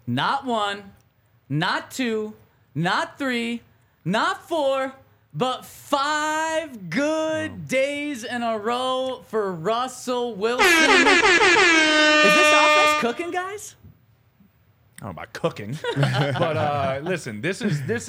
Not 1, not 2, not 3, not 4, but 5 good days in a row for Russell Wilson. Is this offense cooking, guys? I don't know about cooking, but listen, this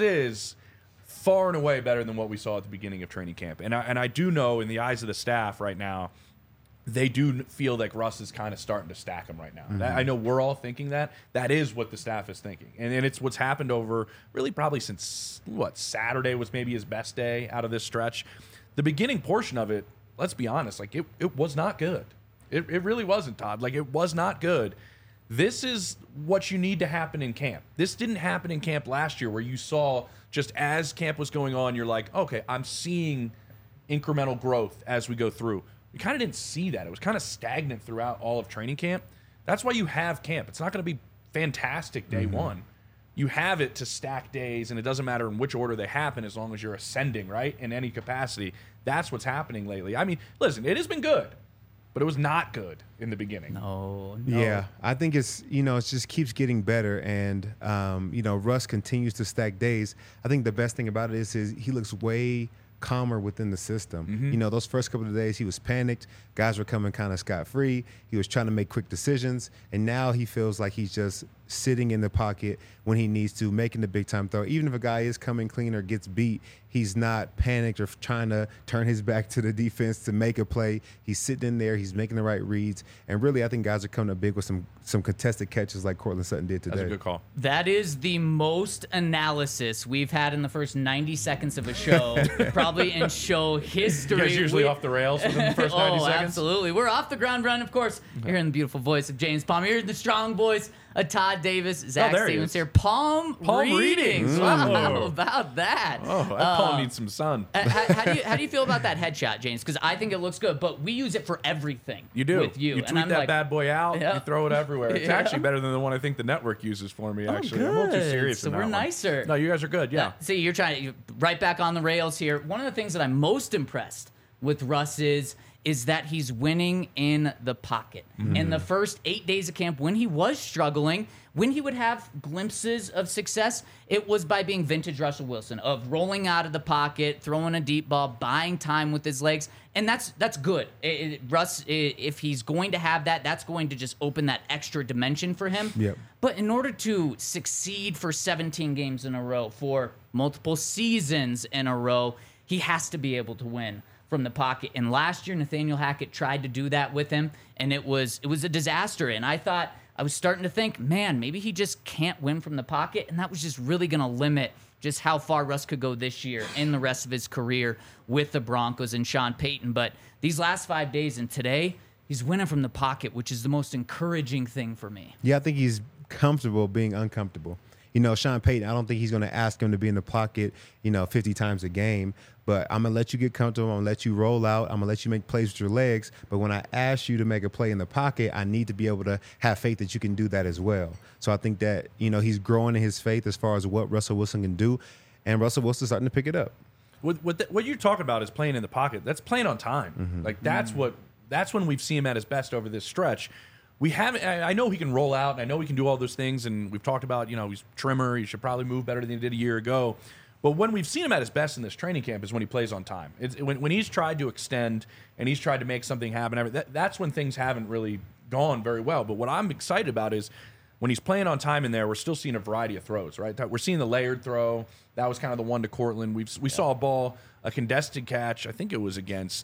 is far and away better than what we saw at the beginning of training camp. And I do know in the eyes of the staff right now, they do feel like Russ is kind of starting to stack them right now. I know we're all thinking that. That is what the staff is thinking. And it's what's happened over really probably since, Saturday was maybe his best day out of this stretch. The beginning portion of it, let's be honest, like it was not good. It really wasn't, Todd. Like, it was not good. This is what you need to happen in camp. This didn't happen in camp last year where you saw just as camp was going on, you're like, okay, I'm seeing incremental growth as we go through. We kind of didn't see that. It was kind of stagnant throughout all of training camp. That's why you have camp. It's not going to be fantastic day one. You have it to stack days, and it doesn't matter in which order they happen as long as you're ascending, right, in any capacity. That's what's happening lately. I mean, listen, it has been good, but it was not good in the beginning. No. Yeah, I think it's, it just keeps getting better. And, Russ continues to stack days. I think the best thing about it is he looks way calmer within the system. Those first couple of days he was panicked. Guys were coming kind of scot-free. He was trying to make quick decisions. And now he feels like he's just sitting in the pocket when he needs to, making the big-time throw. Even if a guy is coming clean or gets beat, he's not panicked or trying to turn his back to the defense to make a play. He's sitting in there. He's making the right reads. And really, I think guys are coming up big with some contested catches like Courtland Sutton did today. That's a good call. That is the most analysis we've had in the first 90 seconds of a show, probably in show history. You guys usually off the rails within the first 90 seconds? Absolutely. We're off the ground run, of course. You're hearing the beautiful voice of James Palmer. You're hearing the strong voice of Todd Davis. Zach Stevens here. Palm readings. Wow, how about that? Oh, that palm needs some sun. How do you feel about that headshot, James? Because I think it looks good, but we use it for everything. You do. With you. You tweet that bad boy out, you throw it everywhere. It's actually better than the one I think the network uses for me, actually. Good. I'm a little too serious So in that we're one. nicer. No, you guys are good, yeah. See, you're right back on the rails here. One of the things that I'm most impressed with Russ is that he's winning in the pocket. In the first 8 days of camp, when he was struggling, when he would have glimpses of success, it was by being vintage Russell Wilson, of rolling out of the pocket, throwing a deep ball, buying time with his legs, and that's good. Russ, if he's going to have that, that's going to just open that extra dimension for him. Yep. But in order to succeed for 17 games in a row, for multiple seasons in a row, he has to be able to win from the pocket. And last year, Nathaniel Hackett tried to do that with him, and it was a disaster. And I was starting to think, man, maybe he just can't win from the pocket, and that was just really going to limit just how far Russ could go this year and the rest of his career with the Broncos and Sean Payton. But these last 5 days and today, he's winning from the pocket, which is the most encouraging thing for me. Yeah, I think he's comfortable being uncomfortable. Sean Payton, I don't think he's going to ask him to be in the pocket, 50 times a game. But I'm going to let you get comfortable. I'm going to let you roll out. I'm going to let you make plays with your legs. But when I ask you to make a play in the pocket, I need to be able to have faith that you can do that as well. So I think that, he's growing in his faith as far as what Russell Wilson can do. And Russell Wilson's starting to pick it up. What you're talking about is playing in the pocket. That's playing on time. Like, that's when we've seen him at his best over this stretch. We haven't. I know he can roll out, and I know he can do all those things, and we've talked about, he's trimmer. He should probably move better than he did a year ago. But when we've seen him at his best in this training camp is when he plays on time. It's when he's tried to extend and he's tried to make something happen. That's when things haven't really gone very well. But what I'm excited about is when he's playing on time in there, we're still seeing a variety of throws, right? We're seeing the layered throw. That was kind of the one to Courtland. We saw a contested catch. I think it was against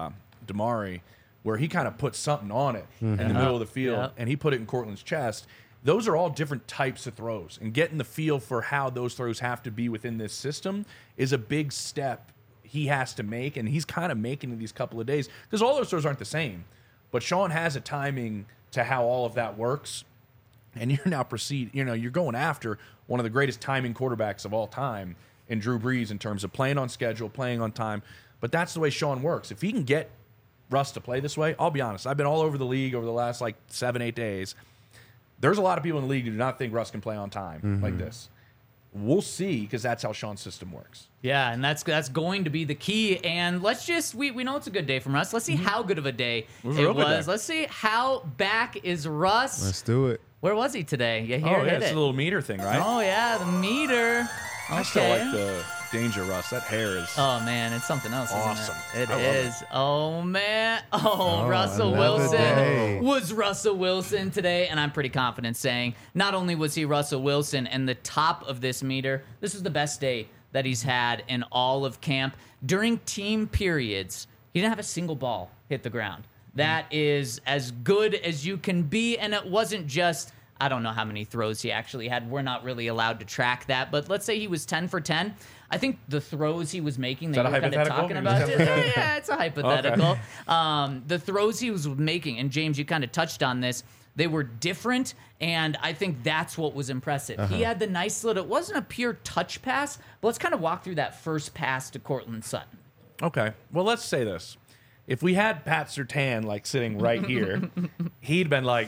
Damari, where he kind of put something on it in the middle of the field, and he put it in Courtland's chest. Those are all different types of throws, and getting the feel for how those throws have to be within this system is a big step he has to make, and he's kind of making in these couple of days, because all those throws aren't the same. But Sean has a timing to how all of that works, and you're now you're going after one of the greatest timing quarterbacks of all time in Drew Brees in terms of playing on schedule, playing on time. But that's the way Sean works. If he can get Russ to play this way, I'll be honest, I've been all over the league over the last 7-8 days. There's a lot of people in the league who do not think Russ can play on time like this. We'll see, because that's how Sean's system works. Yeah, and that's going to be the key. And let's just, we know it's a good day from Russ. Let's see how good of a day it was. Let's see how back is Russ. Let's do it. Where was he today? Yeah, here Oh, yeah, hit it's it. a little meter thing, right? Oh, yeah, the meter. I still like the Danger Russ. That hair is Oh, man, it's something else, awesome. isn't it? I love It is. Oh, man. Oh, Russell another day. Wilson was Russell Wilson today, and I'm pretty confident saying not only was he Russell Wilson and the top of this meter, this is the best day that he's had in all of camp. During team periods, he didn't have a single ball hit the ground. That is as good as you can be, and it wasn't just, I don't know how many throws he actually had. We're not really allowed to track that, but let's say he was 10 for 10. I think the throws he was making, they that were a kind of hypothetical? talking He was about 10 for it. 10? Yeah, it's a hypothetical. The throws he was making, and James, you kind of touched on this, they were different, and I think that's what was impressive. He had the nice little, it wasn't a pure touch pass, but let's kind of walk through that first pass to Cortland Sutton. Okay. Well, let's say this. If we had Pat Surtain like sitting right here, he'd been like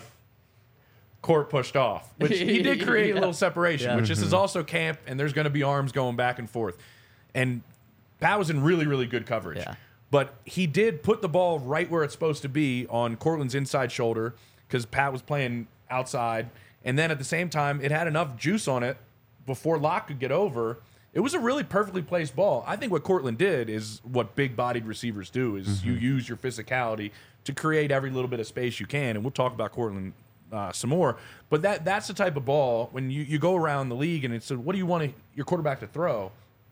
court pushed off, which he did create a little separation, which this is also camp, and there's going to be arms going back and forth. And Pat was in really, really good coverage. Yeah. But he did put the ball right where it's supposed to be on Cortland's inside shoulder because Pat was playing outside. And then at the same time, it had enough juice on it before Locke could get over. It was a really perfectly placed ball. I think what Cortland did is what big-bodied receivers do, is you use your physicality to create every little bit of space you can. And we'll talk about Cortland some more. But that's the type of ball, when you go around the league and it's, what do you want your quarterback to throw?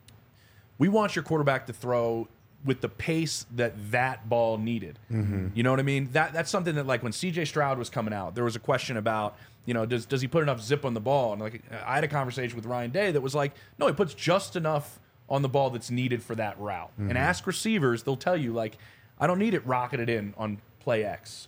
We want your quarterback to throw with the pace that ball needed. You know what I mean? That's something that, like, when C.J. Stroud was coming out, there was a question about, you know, does he put enough zip on the ball? And like, I had a conversation with Ryan Day that was like, no, he puts just enough on the ball that's needed for that route. And ask receivers, they'll tell you, like, I don't need it rocketed in on play X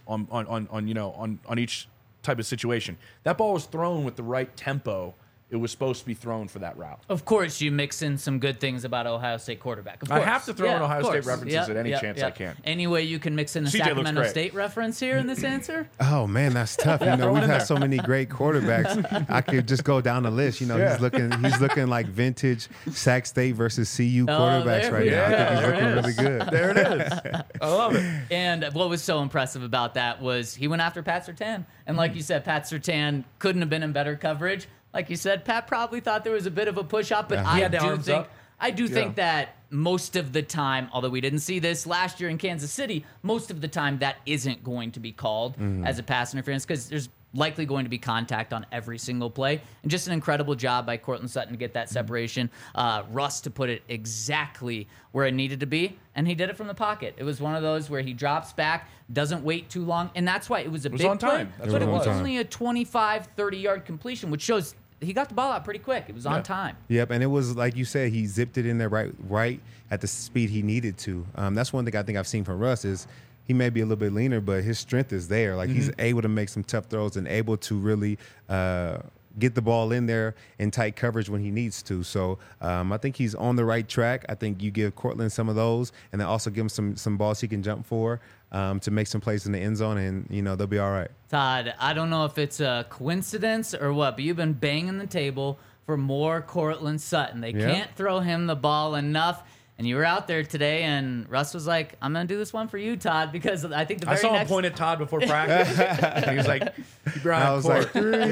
on each type of situation. That ball was thrown with the right tempo. It was supposed to be thrown for that route. Of course, you mix in some good things about Ohio State quarterback. Of I course. have to throw in of Ohio State course. references at any chance I can. Any way you can mix in a CJ looks Sacramento great. State reference here in this answer? Oh man, that's tough. You know, throw it we've in had there. so many great quarterbacks. I could just go down the list. You know, Yeah. he's looking like vintage Sac State versus CU quarterbacks there right we now. I go. think he's There looking it really is. good. There it is. I love it. And what was so impressive about that was he went after Pat Surtain. And like you said, Pat Surtain couldn't have been in better coverage. Like you said, Pat probably thought there was a bit of a push-up, but He had the arms up. I do think that most of the time, although we didn't see this last year in Kansas City, most of the time that isn't going to be called as a pass interference because there's likely going to be contact on every single play. And just an incredible job by Cortland Sutton to get that separation. Russ to put it exactly where it needed to be, and he did it from the pocket. It was one of those where he drops back, doesn't wait too long, and that's why it was a was big on time. play, That's but what it it was was. only a 25, 30-yard completion, which shows he got the ball out pretty quick. It was on Yeah. time. Yep, and it was like you said, he zipped it in there right at the speed he needed to. That's one thing I think I've seen from Russ is he may be a little bit leaner, but his strength is there. Like he's able to make some tough throws and able to really get the ball in there in tight coverage when he needs to. So I think he's on the right track. I think you give Cortland some of those, and then also give him some balls he can jump for to make some plays in the end zone, and they'll be all right. Todd, I don't know if it's a coincidence or what, but you've been banging the table for more Cortland Sutton. They Yeah. can't throw him the ball enough. And you were out there today, and Russ was like, I'm going to do this one for you, Todd, because I think the I very saw him next... point at Todd before practice. And he was like, keep your eye I on was court. like,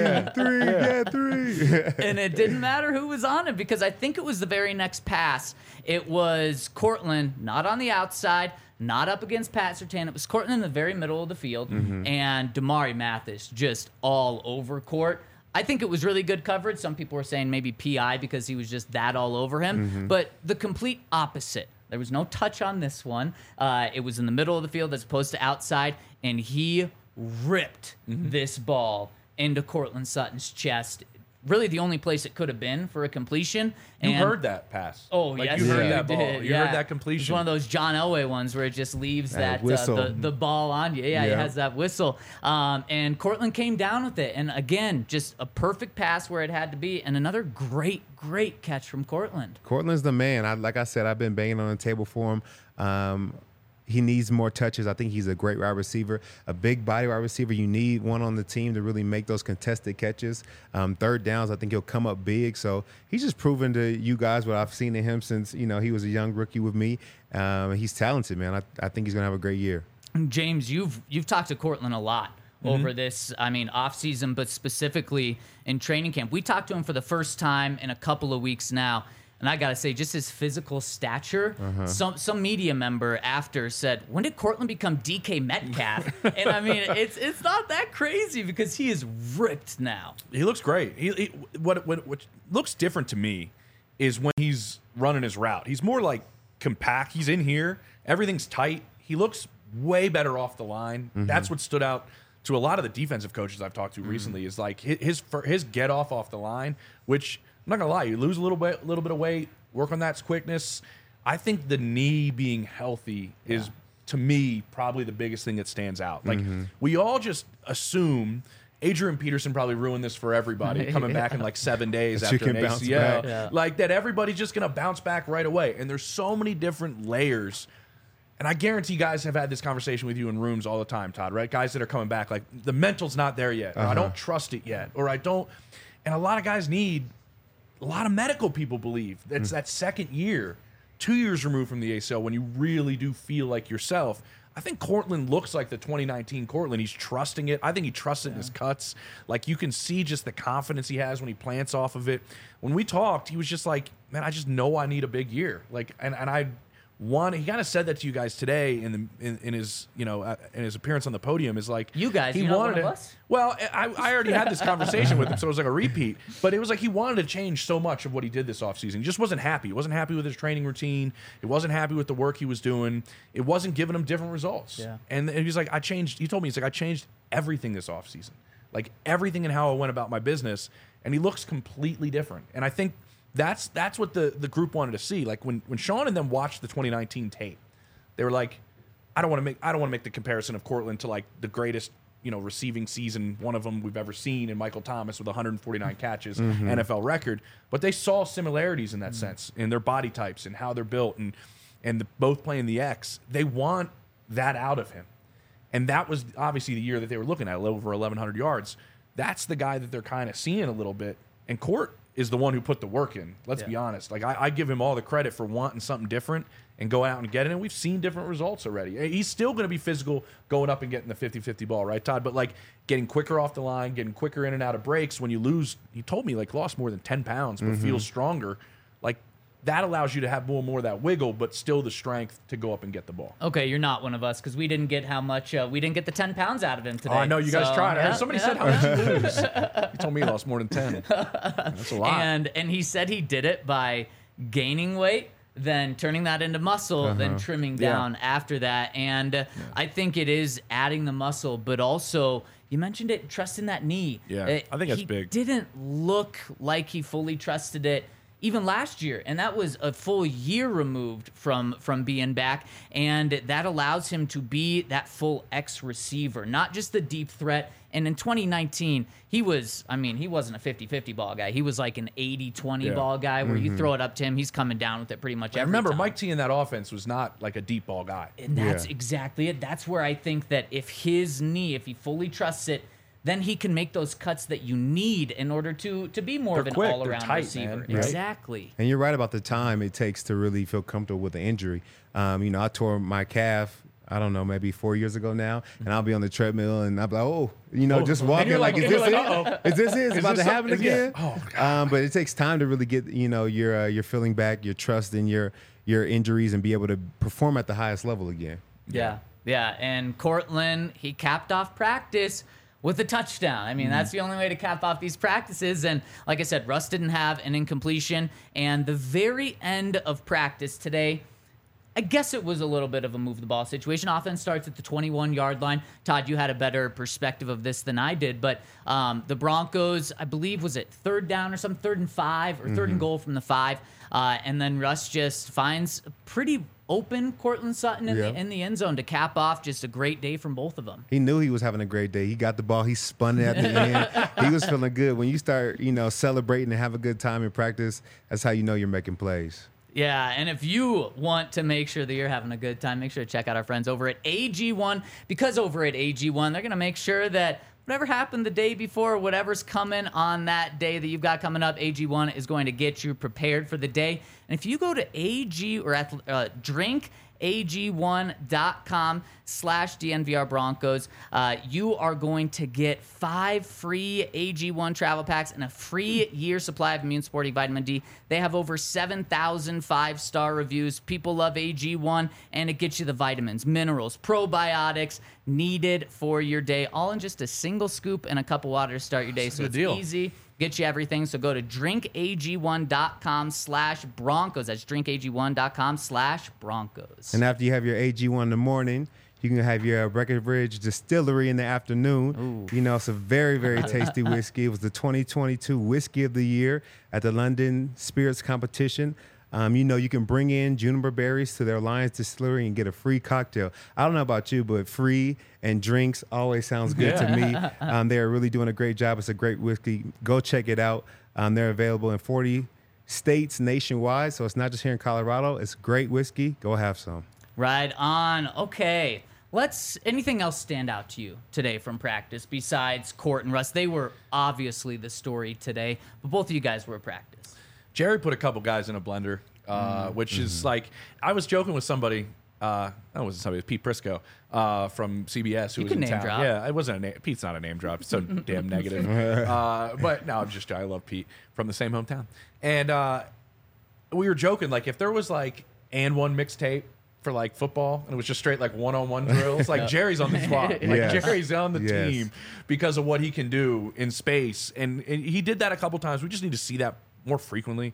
three. And it didn't matter who was on it because I think it was the very next pass. It was Cortland, not on the outside, not up against Pat Surtain. It was Cortland in the very middle of the field, and Damari Mathis just all over court. I think it was really good coverage. Some people were saying maybe PI because he was just that all over him. But the complete opposite. There was no touch on this one. It was in the middle of the field as opposed to outside, and he ripped this ball into Cortland Sutton's chest. Really the only place it could have been for a completion. You And- heard that pass. Oh, like yes, you heard you that ball. did. You Yeah. heard that It's completion. one of those John Elway ones where it just leaves that whistle. the ball on you. Yeah, it Yeah. has that whistle. And Cortland came down with it. And again, just a perfect pass where it had to be. And another great catch from Cortland. Cortland's the man. Like I said, I've been banging on the table for him. He needs more touches. I think he's a great wide receiver, a big body wide receiver. You need one on the team to really make those contested catches. Third downs, I think he'll come up big. So he's just proven to you guys what I've seen in him since he was a young rookie with me. He's talented, man. I think he's gonna have a great year. James, you've talked to Cortland a lot over this, offseason, but specifically in training camp. We talked to him for the first time in a couple of weeks now. And I got to say, just his physical stature, some media member after said, when did Courtland become DK Metcalf? And it's not that crazy because he is ripped now. He looks great. What looks different to me is when he's running his route. He's more like compact. He's in here. Everything's tight. He looks way better off the line. That's what stood out to a lot of the defensive coaches I've talked to recently is like his get off the line, which I'm not gonna lie, you lose a little bit of weight, work on that quickness. I think the knee being healthy is, to me, probably the biggest thing that stands out. Like we all just assume Adrian Peterson probably ruined this for everybody coming back in like 7 days after an ACL. Like that everybody's just gonna bounce back right away. And there's so many different layers. And I guarantee guys have had this conversation with you in rooms all the time, Todd, right? Guys that are coming back, like the mental's not there yet, or I don't trust it yet, or I don't. And a lot of guys a lot of medical people believe that's that second year, 2 years removed from the ACL, when you really do feel like yourself. I think Courtland looks like the 2019 Courtland. He's trusting it. I think he trusts it in his cuts. Like you can see just the confidence he has when he plants off of it. When we talked, he was just like, man, I just know I need a big year. Like, and I want. He kind of said that to you guys today in his in his appearance on the podium. Is like you guys. He wanted wanted one of us? Well, I already had this conversation with him, so it was like a repeat. But it was like he wanted to change so much of what he did this offseason. He just wasn't happy. He wasn't happy with his training routine. He wasn't happy with the work he was doing. It wasn't giving him different results. Yeah. And he's like, I changed. He told me, he's like, I changed everything this offseason. Like everything in how I went about my business. And he looks completely different. And I think that's what the group wanted to see. Like when Sean and them watched the 2019 tape, they were like, I don't want to make the comparison of Courtland to like the greatest, receiving season, one of them we've ever seen, in Michael Thomas with 149 catches, NFL record. But they saw similarities in that sense, in their body types and how they're built, and both playing the X. They want that out of him, and that was obviously the year that they were looking at, over 1,100 yards. That's the guy that they're kind of seeing a little bit. And Court is the one who put the work in. Let's be honest. Like I give him all the credit for wanting something different and going out and getting it. And we've seen different results already. He's still going to be physical going up and getting the 50-50 ball, right, Todd? But like getting quicker off the line, getting quicker in and out of breaks. When you lose, he told me like lost more than 10 pounds, but feels stronger. Like that allows you to have more of that wiggle, but still the strength to go up and get the ball. Okay, you're not one of us because we didn't get we didn't get the 10 pounds out of him today. Oh, I know you guys tried. I heard somebody said, how much you lose? He told me he lost more than 10. That's a lot. And he said he did it by gaining weight, then turning that into muscle, then trimming down after that. And I think it is adding the muscle, but also you mentioned it, trusting that knee. Yeah, I think that's big. He didn't look like he fully trusted it even last year, and that was a full year removed from being back, and that allows him to be that full X receiver, not just the deep threat. And in 2019, he wasn't a 50-50 ball guy. He was like an 80-20 ball guy where you throw it up to him, he's coming down with it pretty much every Remember, time. Mike T in that offense was not like a deep ball guy. And that's exactly it. That's where I think that if his knee, if he fully trusts it, then he can make those cuts that you need in order to be more of an quick, all-around tight, receiver. man. Exactly. And you're right about the time it takes to really feel comfortable with the injury. I tore my calf, I don't know, maybe 4 years ago now, and I'll be on the treadmill and I'll be like, just walking like, is this it? Is this it? It's about to happen again? Oh, God. But it takes time to really get, your feeling back, your trust in your injuries, and be able to perform at the highest level again. Yeah. And Courtland, he capped off practice with a touchdown. That's the only way to cap off these practices. And like I said, Russ didn't have an incompletion. And the very end of practice today, I guess it was a little bit of a move the ball situation. Offense starts at the 21-yard line. Todd, you had a better perspective of this than I did. But the Broncos, I believe, was it 3rd down or something, 3rd and 5 or 3rd and goal from the 5. And then Russ just finds a pretty open Courtland Sutton in the end zone to cap off just a great day from both of them. He knew he was having a great day. He got the ball. He spun it at the end. He was feeling good. When you start, celebrating and have a good time in practice, that's how you know you're making plays. Yeah, and if you want to make sure that you're having a good time, make sure to check out our friends over at AG1, because over at AG1, they're going to make sure that whatever happened the day before, whatever's coming on that day that you've got coming up, AG1 is going to get you prepared for the day. And if you go to AG or drink drinkag1.com/DNVR Broncos. You are going to get 5 free AG1 travel packs and a free year supply of Immune Supporting Vitamin D. They have over 7,000 5-star reviews. People love AG1, and it gets you the vitamins, minerals, probiotics needed for your day, all in just a single scoop and a cup of water to start your day. So it's easy. Get you everything. So go to drinkag1.com/Broncos. That's drinkag1.com/Broncos. And after you have your AG1 in the morning, you can have your Breckenridge Distillery in the afternoon. Ooh. You know, it's a very, very tasty whiskey. It was the 2022 Whiskey of the Year at the London Spirits Competition. You know, you can bring in juniper berries to their Lions Distillery and get a free cocktail. I don't know about you, but free and drinks always sounds good to me. They are really doing a great job. It's a great whiskey. Go check it out. They're available in 40 states nationwide, so it's not just here in Colorado. It's great whiskey. Go have some. Right on. Okay. Anything else stand out to you today from practice besides Court and Russ? They were obviously the story today, but both of you guys were at practice. Jerry put a couple guys in a blender, which is like, I was joking with somebody. That wasn't somebody. It was Pete Prisco from CBS who was in town. Drop. Yeah, it wasn't a name. Pete's not a name drop. It's so damn negative. But no, I love Pete from the same hometown. And we were joking, like, if there was like and one mixtape for like football and it was just straight like one-on-one drills, like Jerry's on the squad. Like Jerry's on the team because of what he can do in space. And he did that a couple times. We just need to see that more frequently.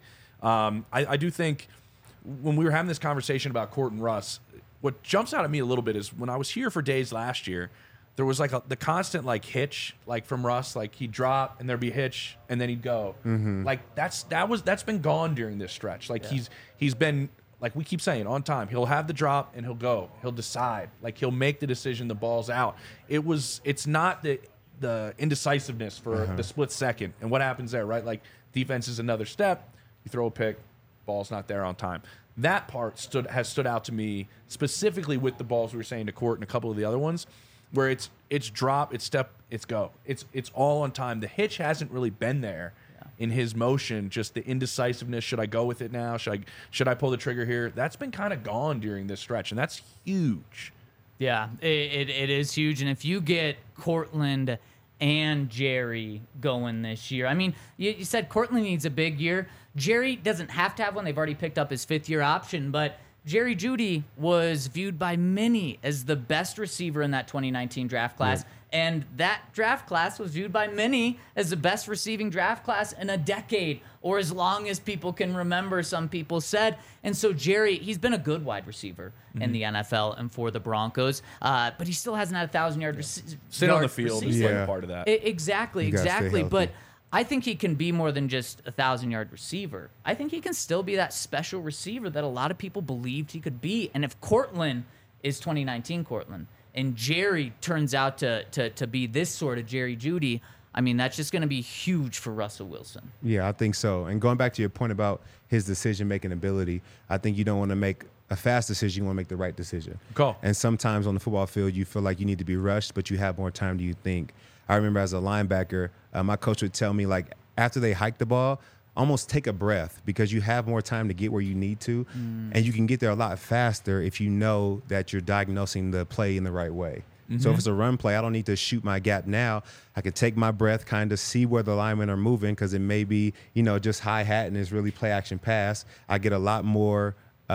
I do think when we were having this conversation about Court and Russ, what jumps out at me a little bit is when I was here for days last year, there was like the constant like hitch, like from Russ, like he'd drop and there'd be a hitch and then he'd go. Like that's been gone during this stretch. Like he's been, like we keep saying, on time. He'll have the drop and he'll go. He'll decide. Like he'll make the decision. The ball's out. It's not the indecisiveness for the split second. And what happens there, right? Like defense is another step. You throw a pick, ball's not there on time. That part has stood out to me specifically with the balls we were saying to Court and a couple of the other ones, where it's drop, it's step, it's go. It's all on time. The hitch hasn't really been there in his motion. Just the indecisiveness. Should I go with it now? Should I pull the trigger here? That's been kind of gone during this stretch, and that's huge. Yeah, it is huge. And if you get Cortland and Jerry going this year, I mean, you said Cortland needs a big year. Jerry doesn't have to have one. They've already picked up his 5th-year option, but Jerry Jeudy was viewed by many as the best receiver in that 2019 draft class. Yeah. And that draft class was viewed by many as the best receiving draft class in a decade, or as long as people can remember, some people said. And so Jerry, he's been a good wide receiver in the NFL and for the Broncos, but he still hasn't had 1,000-yard sit on the field is like part of that. Exactly. But I think he can be more than just a 1,000-yard receiver. I think he can still be that special receiver that a lot of people believed he could be. And if Cortland is 2019 Cortland, and Jerry turns out to be this sort of Jerry Jeudy, I mean, that's just going to be huge for Russell Wilson. Yeah, I think so. And going back to your point about his decision-making ability, I think you don't want to make a fast decision. You want to make the right decision. Cool. And sometimes on the football field, you feel like you need to be rushed, but you have more time than you think. I remember as a linebacker, my coach would tell me, like, after they hike the ball, almost take a breath because you have more time to get where you need to, and you can get there a lot faster if you know that you're diagnosing the play in the right way. So if it's a run play, I don't need to shoot my gap now. I can take my breath, kind of see where the linemen are moving because it may be, just hi-hat and it's really play-action pass. I get a lot more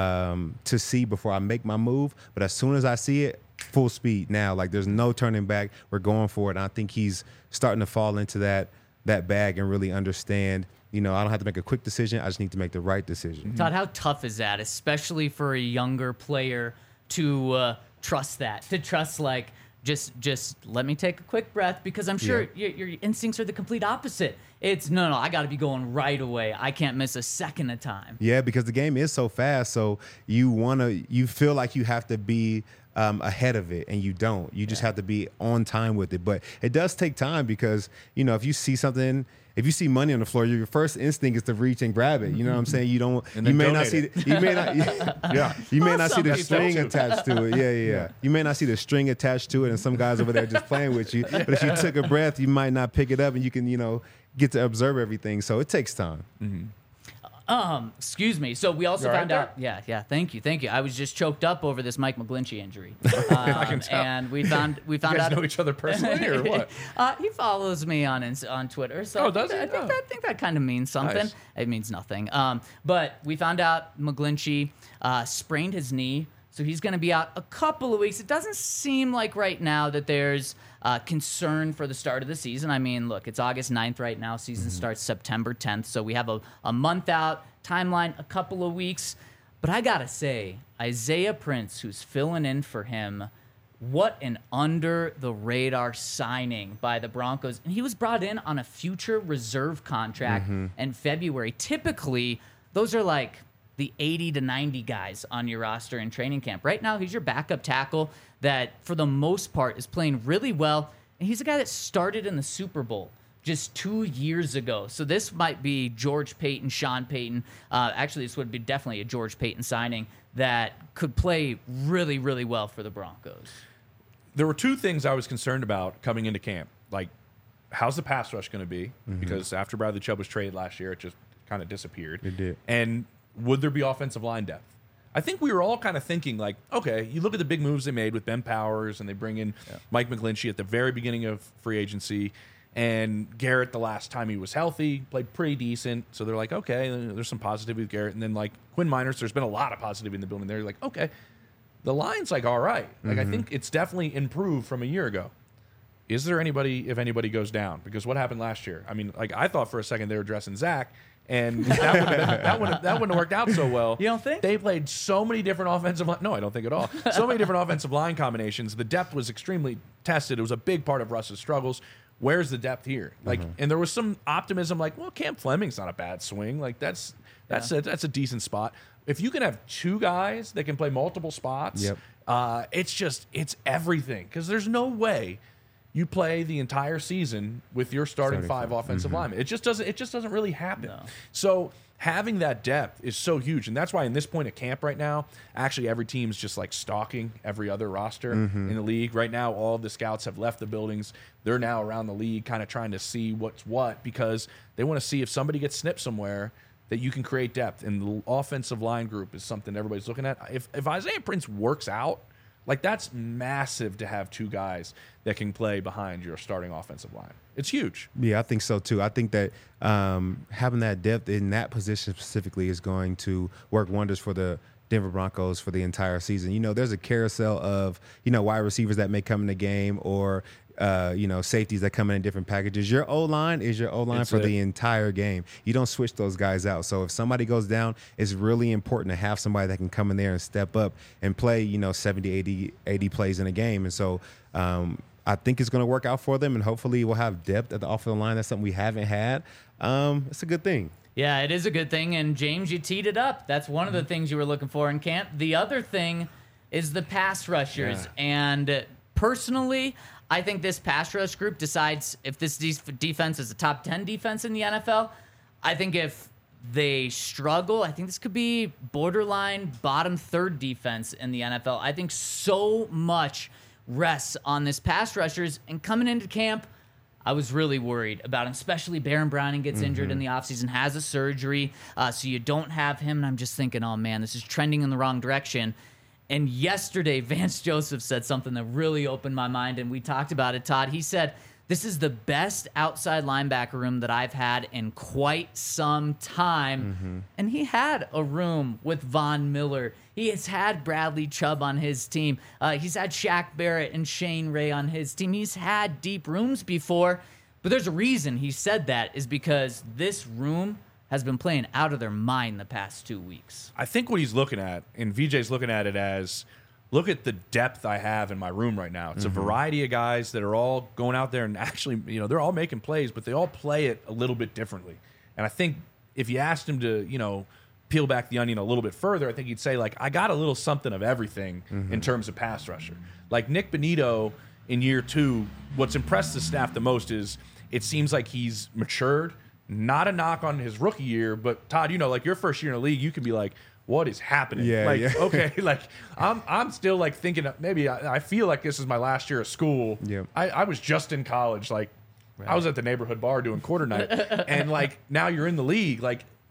to see before I make my move. But as soon as I see it, full speed now. Like, there's no turning back. We're going for it. And I think he's starting to fall into that bag and really understand, I don't have to make a quick decision. I just need to make the right decision. Todd, how tough is that, especially for a younger player to trust that, to trust, like, just let me take a quick breath, because I'm sure your instincts are the complete opposite. It's no, I got to be going right away. I can't miss a second of time. Yeah, because the game is so fast. So you feel like you have to be ahead of it, and you don't. You just have to be on time with it. But it does take time because, if you see something, if you see money on the floor, your first instinct is to reach and grab it. You know what I'm saying? You may not see the string attached to it. Yeah. You may not see the string attached to it, and some guys over there just playing with you. But if you took a breath, you might not pick it up, and you can, get to observe everything. So it takes time. Excuse me. So we also You all found right out. Yeah. Thank you. I was just choked up over this Mike McGlinchey injury. I can tell. And we found You guys out. know each other personally or what? He follows me on Twitter. So Oh, does he? I think that kind of means something. Nice. It means nothing. But we found out McGlinchey sprained his knee, so he's going to be out a couple of weeks. It doesn't seem like right now that there's concern for the start of the season. I mean, look, it's August 9th right now. Season starts September 10th, so we have a month out timeline, a couple of weeks. But I gotta say, Isaiah Prince, who's filling in for him, what an under the radar signing by the Broncos. And he was brought in on a future reserve contract in February. Typically, those are like the 80 to 90 guys on your roster in training camp. Right now, he's your backup tackle that, for the most part, is playing really well. And he's a guy that started in the Super Bowl just 2 years ago. So this might be George Payton, Sean Payton. Actually, this would be definitely a George Payton signing that could play really, really well for the Broncos. There were two things I was concerned about coming into camp. Like, how's the pass rush going to be? Because after Bradley Chubb was traded last year, it just kind of disappeared. It did. And would there be offensive line depth? I think we were all kind of thinking, like, okay, you look at the big moves they made with Ben Powers, and they bring in Mike McGlinchey at the very beginning of free agency, and Garrett, the last time he was healthy, played pretty decent. So they're like, okay, there's some positivity with Garrett. And then, like, Quinn Miners, there's been a lot of positivity in the building. They're like, okay, the line's, like, all right. Like, I think it's definitely improved from a year ago. Is there anybody, if anybody goes down? Because what happened last year? I mean, like, I thought for a second they were dressing Zach, and that wouldn't have worked out so well. You don't think? They played so many different offensive line. No, I don't think at all. So many different offensive line combinations. The depth was extremely tested. It was a big part of Russ's struggles. Where's the depth here? Like, and there was some optimism, like, well, Cam Fleming's not a bad swing. Like, that's a decent spot. If you can have two guys that can play multiple spots, it's everything. Because there's no way you play the entire season with your starting five offensive linemen. It just doesn't really happen. No. So having that depth is so huge, and that's why in this point of camp right now, actually every team's just like stalking every other roster in the league. Right now, all of the scouts have left the buildings. They're now around the league kind of trying to see what's what, because they want to see if somebody gets snipped somewhere that you can create depth. And the offensive line group is something everybody's looking at. If Isaiah Prince works out, like, that's massive to have two guys that can play behind your starting offensive line. It's huge. Yeah, I think so too. I think that having that depth in that position specifically is going to work wonders for the Denver Broncos for the entire season. You know, there's a carousel of, wide receivers that may come in the game, or safeties that come in different packages. Your O-line is your O-line for the entire game. You don't switch those guys out. So if somebody goes down, it's really important to have somebody that can come in there and step up and play, 70, 80 plays in a game. And so I think it's going to work out for them, and hopefully we'll have depth at the offensive line. That's something we haven't had. It's a good thing. Yeah, it is a good thing. And James, you teed it up. That's one of the things you were looking for in camp. The other thing is the pass rushers. Yeah. And personally, I think this pass rush group decides if this defense is a top 10 defense in the NFL. I think if they struggle, I think this could be borderline bottom third defense in the NFL. I think so much rests on this pass rushers. And coming into camp, I was really worried about him, especially Baron Browning gets injured in the offseason, has a surgery, so you don't have him. And I'm just thinking, oh, man, this is trending in the wrong direction. And yesterday, Vance Joseph said something that really opened my mind, and we talked about it, Todd. He said, this is the best outside linebacker room that I've had in quite some time. And he had a room with Von Miller. He has had Bradley Chubb on his team. He's had Shaq Barrett and Shane Ray on his team. He's had deep rooms before. But there's a reason he said that, is because this room has been playing out of their mind the past 2 weeks. I think what he's looking at, and VJ's looking at it as, look at the depth I have in my room right now. It's a variety of guys that are all going out there and actually, they're all making plays, but they all play it a little bit differently. And I think if you asked him to, peel back the onion a little bit further, I think he'd say, like, I got a little something of everything in terms of pass rusher. Like Nick Bonito in year 2, what's impressed the staff the most is it seems like he's matured. Not a knock on his rookie year, but Todd, like your first year in the league, you can be like, what is happening? Yeah, like, yeah. Okay, like I'm still like thinking maybe I feel like this is my last year of school. Yeah. I was just in college, like I was at the neighborhood bar doing quarter night, and like now you're in the league, like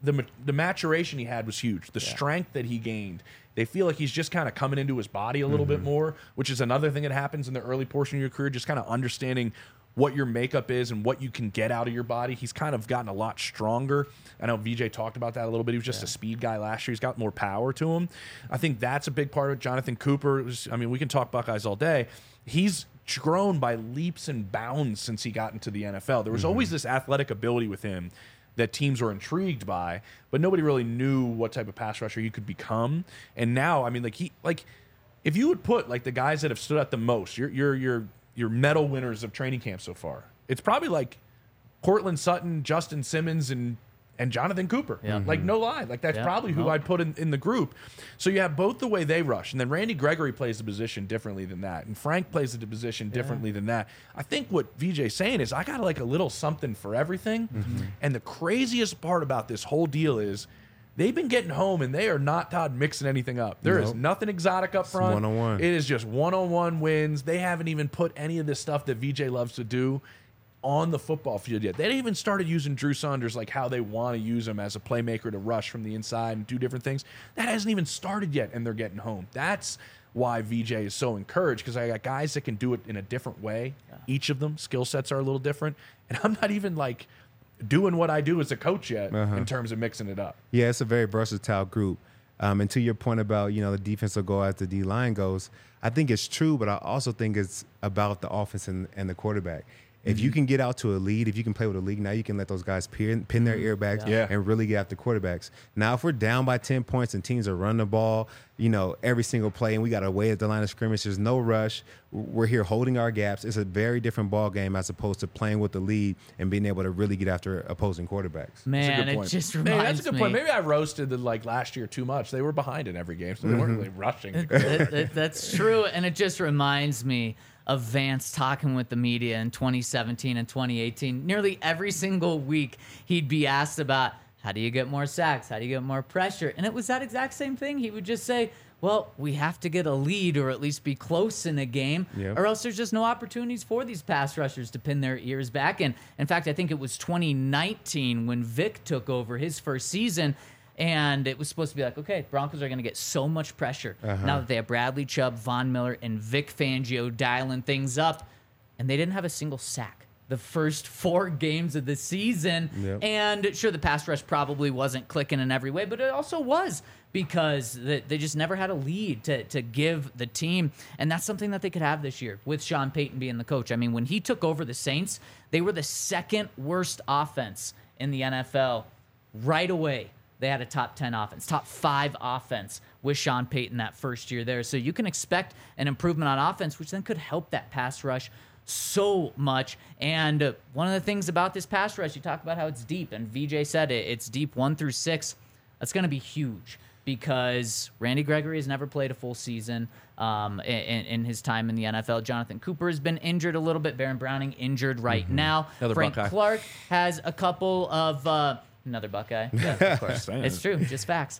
the maturation he had was huge. The strength that he gained. They feel like he's just kind of coming into his body a little bit more, which is another thing that happens in the early portion of your career, just kind of understanding what your makeup is and what you can get out of your body. He's kind of gotten a lot stronger. I know VJ talked about that a little bit. He was just a speed guy last year. He's got more power to him. I think that's a big part of it. Jonathan Cooper, we can talk Buckeyes all day. He's grown by leaps and bounds since he got into the NFL. There was always this athletic ability with him that teams were intrigued by, but nobody really knew what type of pass rusher he could become. And now, if you would put like the guys that have stood out the most, your medal winners of training camp so far, it's probably like Cortland Sutton, Justin Simmons, and Jonathan Cooper. Yeah. Like, no lie. Like, that's probably who I'd put in the group. So you have both the way they rush, and then Randy Gregory plays the position differently than that, and Frank plays the position differently than that. I think what VJ's saying is I got like a little something for everything. And the craziest part about this whole deal is they've been getting home, and they are not, Todd, mixing anything up. There is nothing exotic up front. One-on-one. It is just one-on-one wins. They haven't even put any of this stuff that VJ loves to do on the football field yet. They haven't even started using Drew Saunders like how they want to use him as a playmaker to rush from the inside and do different things. That hasn't even started yet, and they're getting home. That's why VJ is so encouraged, because I got guys that can do it in a different way. Each of them, skill sets are a little different. And I'm not even like doing what I do as a coach yet in terms of mixing it up. Yeah, it's a very versatile group. And to your point about, the defense will go as the D-line goes, I think it's true, but I also think it's about the offense and the quarterback. If you can get out to a lead, if you can play with a lead, now you can let those guys pin their earbags and really get after quarterbacks. Now, if we're down by 10 points and teams are running the ball, every single play, and we got to wait at the line of scrimmage, there's no rush. We're here holding our gaps. It's a very different ball game as opposed to playing with the lead and being able to really get after opposing quarterbacks. Man, it just reminds me. That's a good point. Maybe I roasted last year too much. They were behind in every game, so they weren't really rushing. That's true, and it just reminds me of Vance talking with the media in 2017 and 2018. Nearly every single week, he'd be asked about, how do you get more sacks? How do you get more pressure? And it was that exact same thing. He would just say, well, we have to get a lead or at least be close in a game, or else there's just no opportunities for these pass rushers to pin their ears back. And in fact, I think it was 2019 when Vic took over his first season, and it was supposed to be like, okay, Broncos are going to get so much pressure now that they have Bradley Chubb, Von Miller, and Vic Fangio dialing things up, and they didn't have a single sack the first 4 games of the season. And sure, the pass rush probably wasn't clicking in every way, but it also was because they just never had a lead to give the team. And that's something that they could have this year with Sean Payton being the coach. I mean, when he took over the Saints, they were the second worst offense in the NFL right away. They had a top 10 offense, top 5 offense with Sean Payton that first year there. So you can expect an improvement on offense, which then could help that pass rush so much. And one of the things about this pass rush, you talk about how it's deep, and VJ said it's deep 1 through 6. That's going to be huge because Randy Gregory has never played a full season in his time in the NFL. Jonathan Cooper has been injured a little bit. Baron Browning injured right now. Another Frank Buckeye. Clark has a couple of... Another Buckeye. Yeah, of course. It's true. Just facts.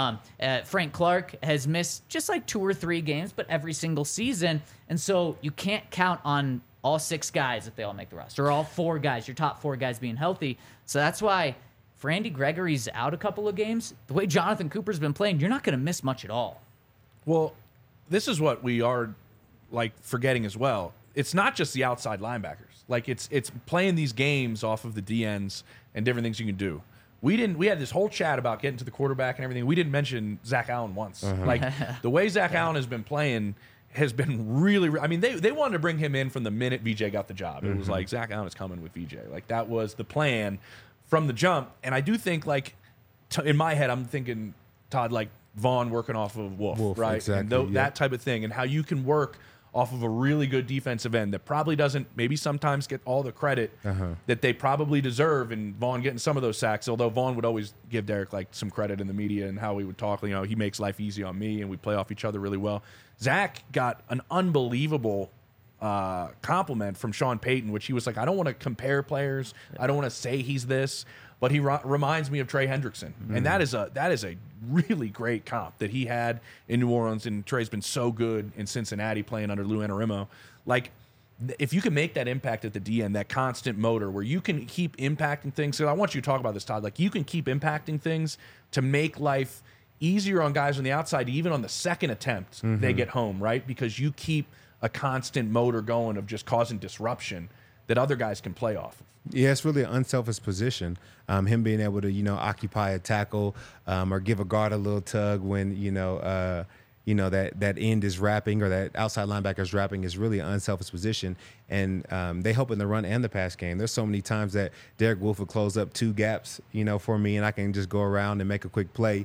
Frank Clark has missed just like 2 or 3 games, but every single season. And so you can't count on all 6 guys if they all make the roster, or all 4 guys, your top 4 guys being healthy. So that's why if Randy Gregory's out a couple of games, the way Jonathan Cooper's been playing, you're not going to miss much at all. Well, this is what we are forgetting as well. It's not just the outside linebackers. It's playing these games off of the DNs and different things you can do. We had this whole chat about getting to the quarterback and everything. We didn't mention Zach Allen once. The way Zach Allen has been playing has been really. I mean, they wanted to bring him in from the minute VJ got the job. It was like Zach Allen is coming with VJ. That was the plan from the jump. And I do think in my head, I'm thinking Todd Vaughn working off of Wolf, right? Exactly, and that type of thing, and how you can work off of a really good defensive end that probably doesn't maybe sometimes get all the credit that they probably deserve, and Vaughn getting some of those sacks, although Vaughn would always give Derek some credit in the media and how he would talk, he makes life easy on me and we play off each other really well. Zach got an unbelievable compliment from Sean Payton, which he was like, I don't want to compare players. I don't want to say he's this, but he reminds me of Trey Hendrickson. And that is a really great comp that he had in New Orleans, and Trey's been so good in Cincinnati playing under Lou Anarumo. if you can make that impact at the DN, that constant motor where you can keep impacting things. So I want you to talk about this, Todd. Like, you can keep impacting things to make life easier on guys on the outside, even on the second attempt they get home, right? Because you keep a constant motor going of just causing disruption that other guys can play off of. Yeah, it's really an unselfish position. Him being able to, occupy a tackle or give a guard a little tug when, that end is wrapping or that outside linebacker is wrapping is really an unselfish position. And they help in the run and the pass game. There's so many times that Derek Wolfe would close up 2 gaps, for me, and I can just go around and make a quick play.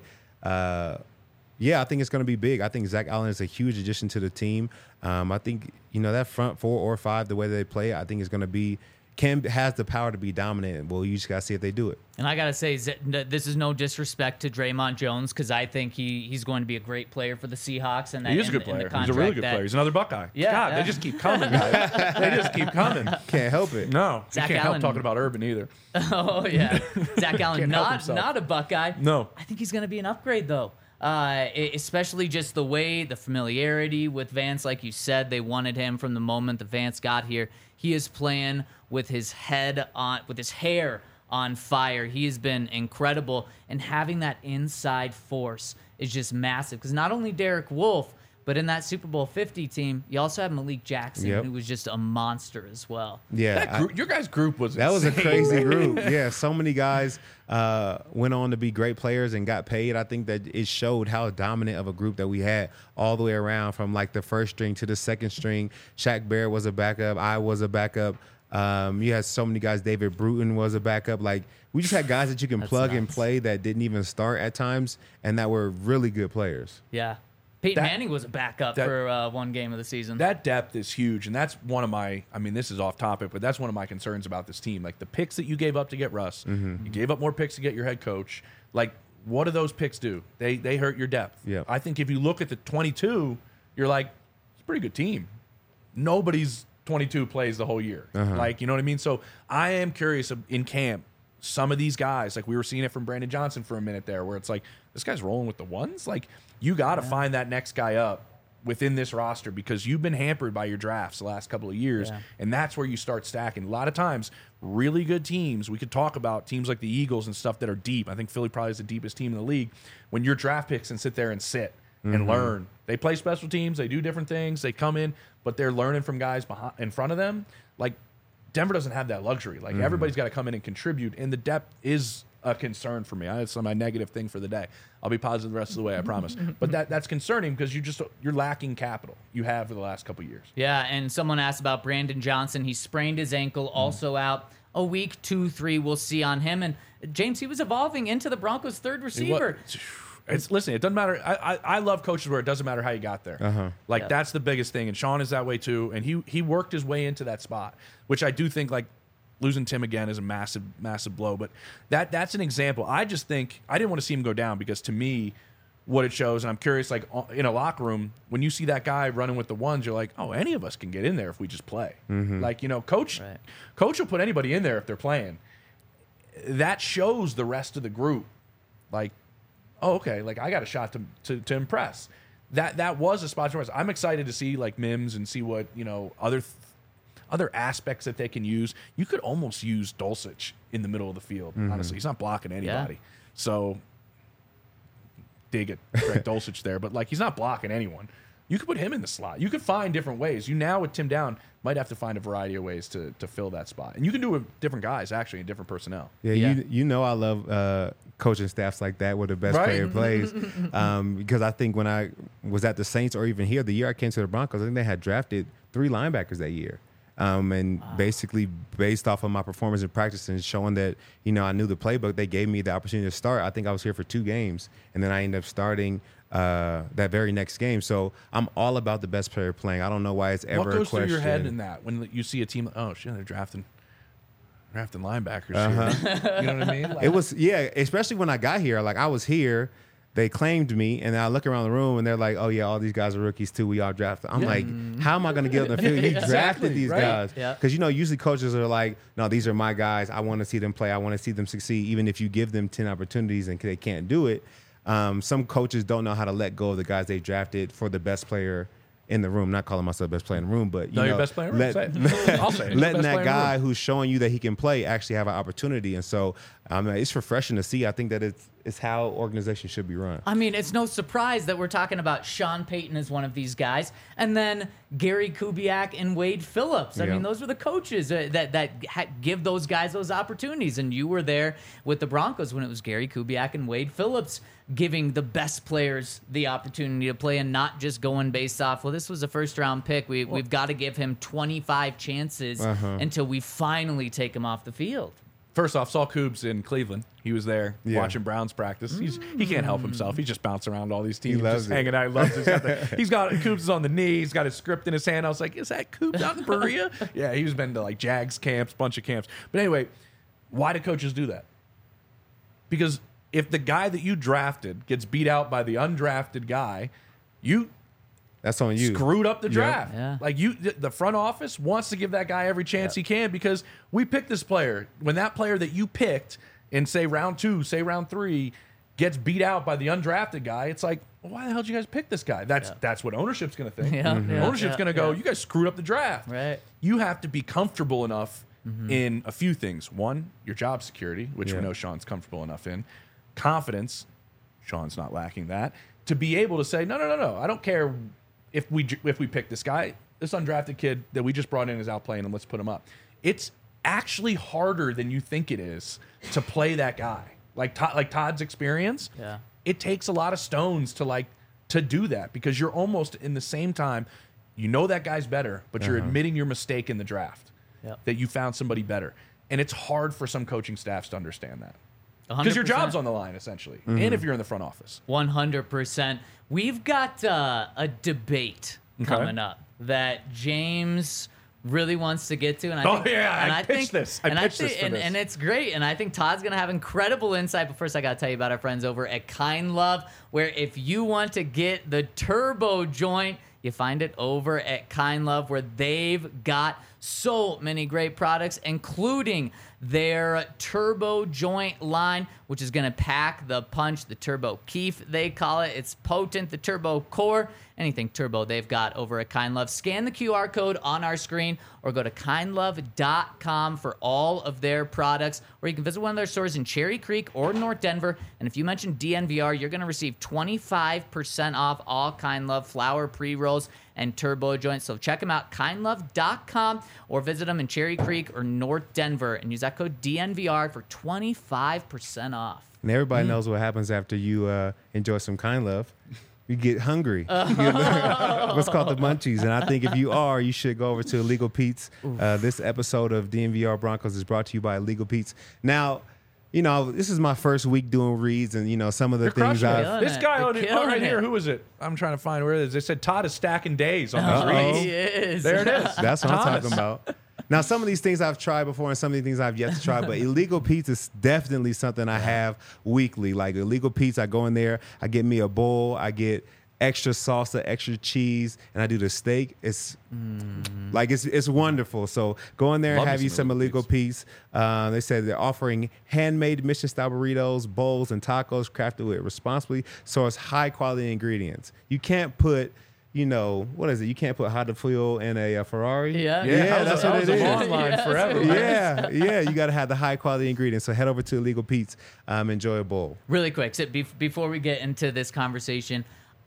Yeah, I think it's going to be big. I think Zach Allen is a huge addition to the team. I think, that front 4 or 5, the way they play, I think is going to be has the power to be dominant. Well, you just got to see if they do it. And I got to say, this is no disrespect to Draymond Jones, because I think he's going to be a great player for the Seahawks. And he is a good player. He's a really good player. He's another Buckeye. Yeah, God, they just keep coming, guys. They just keep coming. Can't help it. No, Zach you can't Allen, help talking about Urban either. Oh, yeah. Zach Allen, not a Buckeye. No. I think he's going to be an upgrade, though. Especially just the way, the familiarity with Vance, like you said, they wanted him from the moment that Vance got here. He is playing with his hair on fire. He has been incredible, and having that inside force is just massive. Because not only Derek Wolfe, but in that Super Bowl 50 team, you also have Malik Jackson, who was just a monster as well. Yeah, your guys' group was that insane. was a crazy group. Yeah, so many guys went on to be great players and got paid. I think that it showed how dominant of a group that we had all the way around, from like the first string to the second string. Shaq Barrett was a backup. I was a backup. You had so many guys. David Bruton was a backup. Like, we just had guys that you can plug and play that didn't even start at times and that were really good players. Yeah. Peyton Manning was a backup for one game of the season. That depth is huge, and that's one of my, this is off topic, but that's one of my concerns about this team. Like, the picks that you gave up to get Russ, you gave up more picks to get your head coach. Like, what do those picks do? They hurt your depth. Yeah. I think if you look at the 22, you're like, it's a pretty good team. Nobody's 22 plays the whole year. Like, you know what I mean? So I am curious in camp, some of these guys, like we were seeing it from Brandon Johnson for a minute there, where it's like, this guy's rolling with the ones. Like, you got to find that next guy up within this roster, because you've been hampered by your drafts the last couple of years, and that's where you start stacking. A lot of times, really good teams, we could talk about teams like the Eagles and stuff that are deep. I think Philly probably is the deepest team in the league. When your draft picks and sit there and and learn. They play special teams, they do different things, they come in, but they're learning from guys in front of them. Like, Denver doesn't have that luxury. Like, everybody's got to come in and contribute, and the depth is a concern for me. That's my negative thing for the day. I'll be positive the rest of the way, I promise. But that's concerning, because you're lacking capital you have for the last couple of years. Yeah, and someone asked about Brandon Johnson. He sprained his ankle, also out a week, 2-3 we'll see on him. And James, he was evolving into the Broncos' third receiver. Listen, it doesn't matter. I love coaches where it doesn't matter how you got there. That's the biggest thing. And Sean is that way too. And he worked his way into that spot, which I do think, like, losing Tim again is a massive, massive blow. But that's an example. I just think I didn't want to see him go down, because to me, what it shows, and I'm curious, like, in a locker room, when you see that guy running with the ones, you're like, oh, any of us can get in there if we just play. Like, coach will put anybody in there if they're playing. That shows the rest of the group, like, oh, okay, like, I got a shot to impress. That was a spot to impress. I'm excited to see, like, Mims and see what, other aspects that they can use. You could almost use Dulcich in the middle of the field, honestly. He's not blocking anybody. So, dig it, Greg Dulcich there. But, like, he's not blocking anyone. You could put him in the slot. You could find different ways. You now, with Tim Down, might have to find a variety of ways to fill that spot. And you can do it with different guys, actually, and different personnel. Yeah. I love coaching staffs like that where the best player plays. Because I think when I was at the Saints, or even here, the year I came to the Broncos, I think they had drafted 3 linebackers that year. Basically based off of my performance in practice and showing that, I knew the playbook, they gave me the opportunity to start. I think I was here for 2 games, and then I ended up starting that very next game. So I'm all about the best player playing. I don't know why it's ever a question. What goes through your head in that when you see a team, oh, shit, they're drafting linebackers here. You know what I mean? Like, it was, especially when I got here. Like, I was here, they claimed me, and I look around the room, and they're like, oh, yeah, all these guys are rookies, too. We all drafted. I'm like, how am I going to get on the field? You drafted these guys. Because, usually coaches are like, no, these are my guys. I want to see them play. I want to see them succeed, even if you give them 10 opportunities and they can't do it. Some coaches don't know how to let go of the guys they drafted for the best player in the room. Not calling myself best player in the room, but Your best player in the room. Say it. I'll say it. Letting Best player that in the guy room. who's showing you that he can play actually have an opportunity. And so it's refreshing to see. I think that it's how organizations should be run. I mean, it's no surprise that we're talking about Sean Payton as one of these guys, and then Gary Kubiak and Wade Phillips. I Yeah. mean, those are the coaches that give those guys those opportunities. And you were there with the Broncos when it was Gary Kubiak and Wade Phillips giving the best players the opportunity to play and not just going based off, well, this was a first-round pick. We've got to give him 25 chances until we finally take him off the field. First off, saw Coobs in Cleveland. He was there watching Browns practice. He can't help himself. He's just bouncing around all these teams, loves just it. hanging out. He loves it. He's got Coobs is on the knee. He's got his script in his hand. I was like, is that Coobs out in Berea? Yeah, he's been to like Jags camps, bunch of camps. But anyway, why do coaches do that? Because if the guy that you drafted gets beat out by the undrafted guy, you That's on you. screwed up the draft. Yeah. Like the front office wants to give that guy every chance he can because we picked this player. When that player that you picked in say round 2, say round 3, gets beat out by the undrafted guy, it's like, well, why the hell did you guys pick this guy? That's what ownership's going to think. Ownership's going to go, you guys screwed up the draft. Right. You have to be comfortable enough in a few things. One, your job security, which we know Sean's comfortable enough in. Confidence, Sean's not lacking that. To be able to say, no, I don't care if we pick this guy, this undrafted kid that we just brought in is out playing him, let's put him up. It's actually harder than you think it is to play that guy. Like Todd's experience, it takes a lot of stones to do that because you're almost in the same time, you know that guy's better, but you're admitting your mistake in the draft, that you found somebody better. And it's hard for some coaching staffs to understand that. Because your 100%. job's on the line, essentially, and if you're in the front office. 100%. We've got a debate coming up that James really wants to get to, and I pitched this. I pitched this for this. And it's great. And I think Todd's gonna have incredible insight. But first, I gotta tell you about our friends over at Kind Love, where if you want to get the turbo joint, you find it over at Kind Love, where they've got so many great products, including their turbo joint line, which is going to pack the punch, the turbo keef, they call it. It's potent, the turbo core, anything turbo they've got over at Kind Love. Scan the QR code on our screen or go to kindlove.com for all of their products, or you can visit one of their stores in Cherry Creek or North Denver. And if you mention DNVR, you're going to receive 25% off all Kind Love flower pre-rolls and turbo joints. So check them out, kindlove.com, or visit them in Cherry Creek or North Denver and use that code DNVR for 25% off. And everybody knows what happens after you enjoy some Kind Love. You get hungry. You get what's called the munchies. And I think if you are, you should go over to Illegal Pete's. This episode of DNVR Broncos is brought to you by Illegal Pete's. Now, you know, this is my first week doing reads, and, you know, some of the things I've... This guy You're on killing right here, it. who is it? I'm trying to find where it is. They said Todd is stacking days on these reads. He is. There it is. That's what I'm Thomas. talking about. Now, some of these things I've tried before and some of these things I've yet to try, but Illegal Pete's is definitely something I have weekly. Like Illegal Pete's, I go in there, I get me a bowl, I get extra salsa, extra cheese, and I do the steak. It's like it's wonderful. So go in there and Love have me you some some Illegal Illegal Pete's. They said they're offering handmade Michelin-style burritos, bowls, and tacos crafted with responsibly sourced high-quality ingredients. You can't put... You know, what is it? You can't put hot fuel in a Ferrari. Yeah. That's what it is. Online forever. Yeah, you got to have the high quality ingredients. So head over to Illegal Pete's, enjoy a bowl. Really quick, so before we get into this conversation,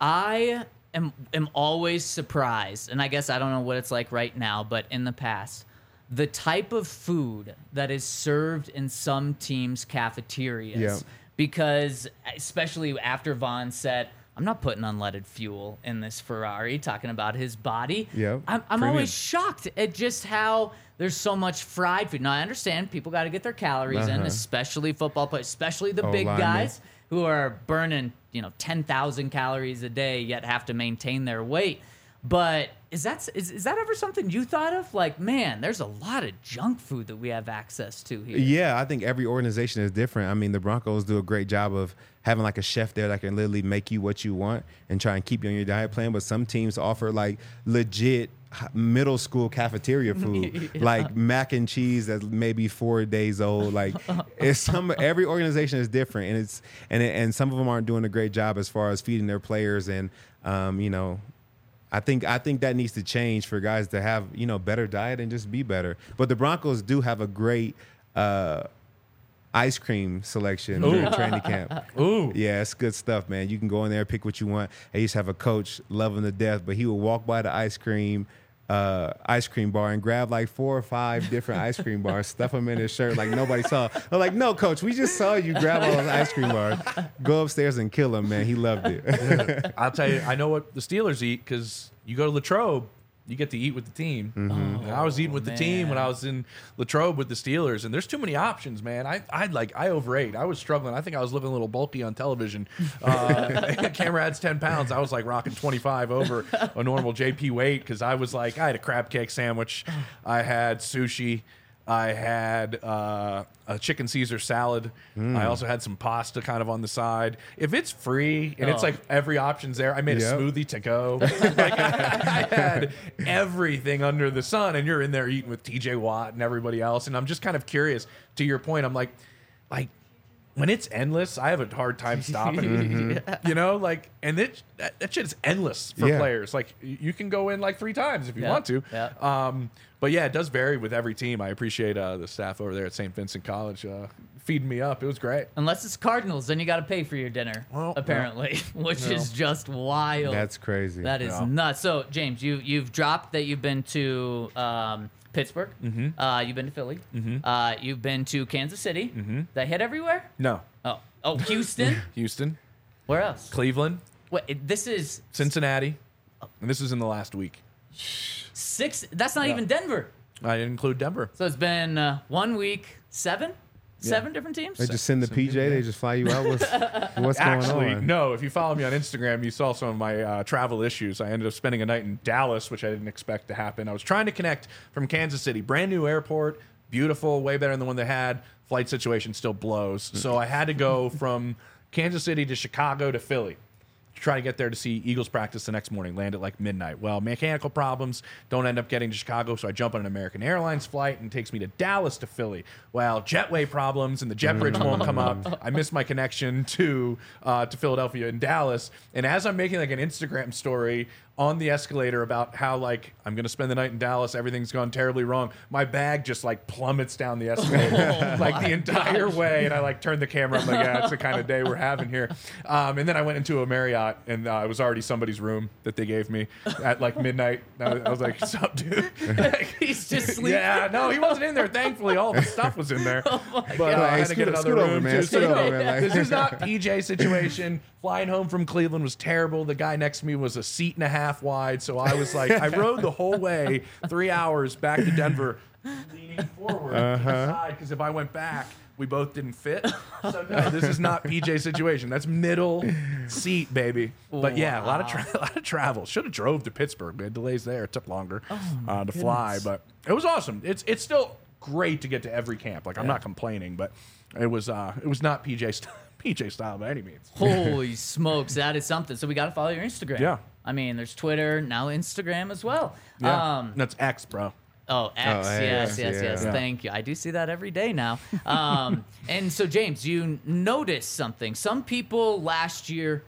I am always surprised, and I guess I don't know what it's like right now, but in the past, the type of food that is served in some teams' cafeterias. Yeah. Because especially after Vaughn said, I'm not putting unleaded fuel in this Ferrari, talking about his body. Yeah, I'm premium. always shocked at just how there's so much fried food. Now, I understand people got to get their calories in, especially football players, especially the big linemen. guys who are burning, 10,000 calories a day, yet have to maintain their weight. But is that ever something you thought of? Like, man, there's a lot of junk food that we have access to here. Yeah, I think every organization is different. I mean, the Broncos do a great job of having like a chef there that can literally make you what you want and try and keep you on your diet plan. But some teams offer like legit middle school cafeteria food, like mac and cheese that's maybe 4 days old. Like every organization is different, and some of them aren't doing a great job as far as feeding their players and I think that needs to change for guys to have, better diet and just be better. But the Broncos do have a great ice cream selection during training camp. Ooh. Yeah, it's good stuff, man. You can go in there, pick what you want. I used to have a coach, love him to death, but he would walk by the ice cream bar and grab like 4 or 5 different ice cream bars, stuff them in his shirt like nobody saw. I'm like, no, coach, we just saw you grab all those ice cream bars. Go upstairs and kill him, man. He loved it. I'll tell you, I know what the Steelers eat because you go to Latrobe, you get to eat with the team. Mm-hmm. And I was eating with the team when I was in Latrobe with the Steelers, and there's too many options, man. I overate. I was struggling. I think I was living a little bulky on television. Camera adds 10 pounds. I was like rocking 25 over a normal JP weight because I was like, I had a crab cake sandwich. I had sushi. I had a chicken Caesar salad. I also had some pasta kind of on the side. If it's free and it's like every option's there, I made a smoothie to go. Like I had everything under the sun, and you're in there eating with TJ Watt and everybody else. And I'm just kind of curious, to your point, I'm like when it's endless, I have a hard time stopping. You know, like, and that shit is endless for players. Like, you can go in like 3 times if you want to. But yeah, it does vary with every team. I appreciate the staff over there at St. Vincent College feeding me up. It was great. Unless it's Cardinals, then you got to pay for your dinner, apparently, which is just wild. That's crazy. That is nuts. So, James, you've dropped that you've been to Pittsburgh. You've been to Philly. You've been to Kansas City. Did I hit everywhere? No. Oh, Houston. Houston. Where else? Cleveland. Wait, this is Cincinnati. And this is in the last week. 6. That's not even Denver. I didn't include Denver. So it's been 1 week, 7 different teams. They just send the PJ. They just fly you out with what's Actually, going on. no. If you follow me on Instagram, you saw some of my travel issues. I ended up spending a night in Dallas, which I didn't expect to happen. I was trying to connect from Kansas City. Brand new airport. Beautiful. Way better than the one they had. Flight situation still blows. So I had to go from Kansas City to Chicago to Philly. Try to get there to see Eagles practice the next morning, land at like midnight. Well, mechanical problems, don't end up getting to Chicago, so I jump on an American Airlines flight and it takes me to Dallas to Philly. Well, jetway problems and the jet bridge won't come up. I missed my connection to Philadelphia and Dallas. And as I'm making like an Instagram story on the escalator about how like I'm gonna spend the night in Dallas, everything's gone terribly wrong, my bag just like plummets down the escalator like the entire way, and I like turned the camera. I'm like, yeah, it's the kind of day we're having here. And then I went into a Marriott, and it was already somebody's room that they gave me at like midnight. I was like, "What's up, dude?" He's just sleeping. Yeah, no, he wasn't in there. Thankfully, all the stuff was in there. But I had to get another scoot over, room man. too. Scoot over, man. Like- This is not PJ situation. Flying home from Cleveland was terrible. The guy next to me was a seat and a half wide, so I was like, I rode the whole way 3 hours back to Denver, leaning forward to the side, because if I went back, we both didn't fit. So no, this is not PJ situation. That's middle seat, baby. But yeah, a lot of travel. Should have drove to Pittsburgh. We had delays there. It took longer to fly, but it was awesome. It's still great to get to every camp. Like, I'm not complaining, but it was not PJ style by any means. Holy smokes, that is something. So we got to follow your Instagram. Yeah. I mean, there's Twitter, now Instagram as well. Yeah. That's X, bro. Oh, X, Oh, hey, yes. yeah. Thank you. I do see that every day now. And so, James, you noticed something. Some people last year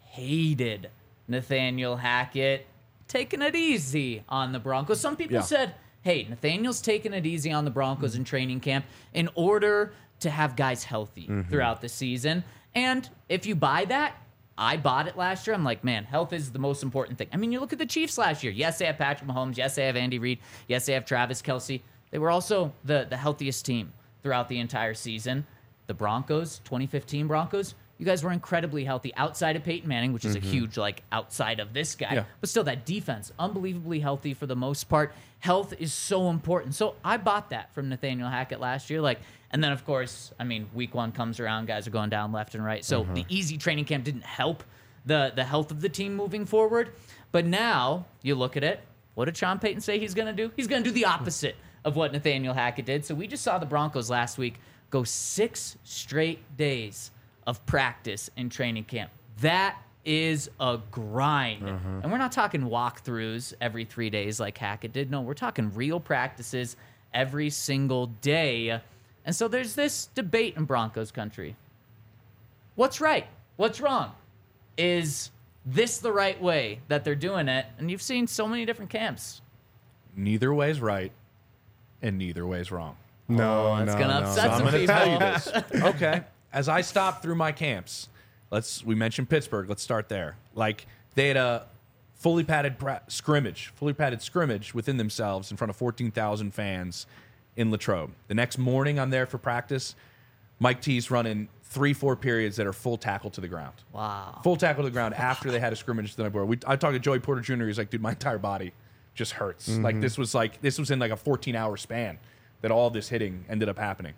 hated Nathaniel Hackett taking it easy on the Broncos. Some people said, hey, Nathaniel's taking it easy on the Broncos in training camp in order to have guys healthy throughout the season. And if you buy that, I bought it last year. I'm like, man, health is the most important thing. I mean, you look at the Chiefs last year. Yes, they have Patrick Mahomes. Yes, they have Andy Reid. Yes, they have Travis Kelce. They were also the healthiest team throughout the entire season. The Broncos, 2015 Broncos, you guys were incredibly healthy outside of Peyton Manning, which is a huge, like, outside of this guy. Yeah. But still, that defense, unbelievably healthy for the most part. Health is so important. So I bought that from Nathaniel Hackett last year. Like, and then, of course, I mean, week 1 comes around, guys are going down left and right. So the easy training camp didn't help the health of the team moving forward. But now you look at it. What did Sean Payton say he's going to do? He's going to do the opposite of what Nathaniel Hackett did. So we just saw the Broncos last week go 6 straight days of practice in training camp. That is a grind. And we're not talking walkthroughs every 3 days like Hackett did. No, we're talking real practices every single day. And so there's this debate in Broncos country. What's right? What's wrong? Is this the right way that they're doing it? And you've seen so many different camps. Neither way's right, and neither way's wrong. No, It's no, gonna no. upset So I'm some going to people. tell you this. Okay. As I stop through my camps, we mentioned Pittsburgh. Let's start there. Like, they had a fully padded scrimmage within themselves in front of 14,000 fans in Latrobe. The next morning, I'm there for practice. Mike T's running 3-4 periods that are full tackle to the ground. Wow. Full tackle to the ground after they had a scrimmage the night before. I talked to Joey Porter Jr. He's like, dude, my entire body just hurts. Like, this was in like a 14-hour span that all this hitting ended up happening.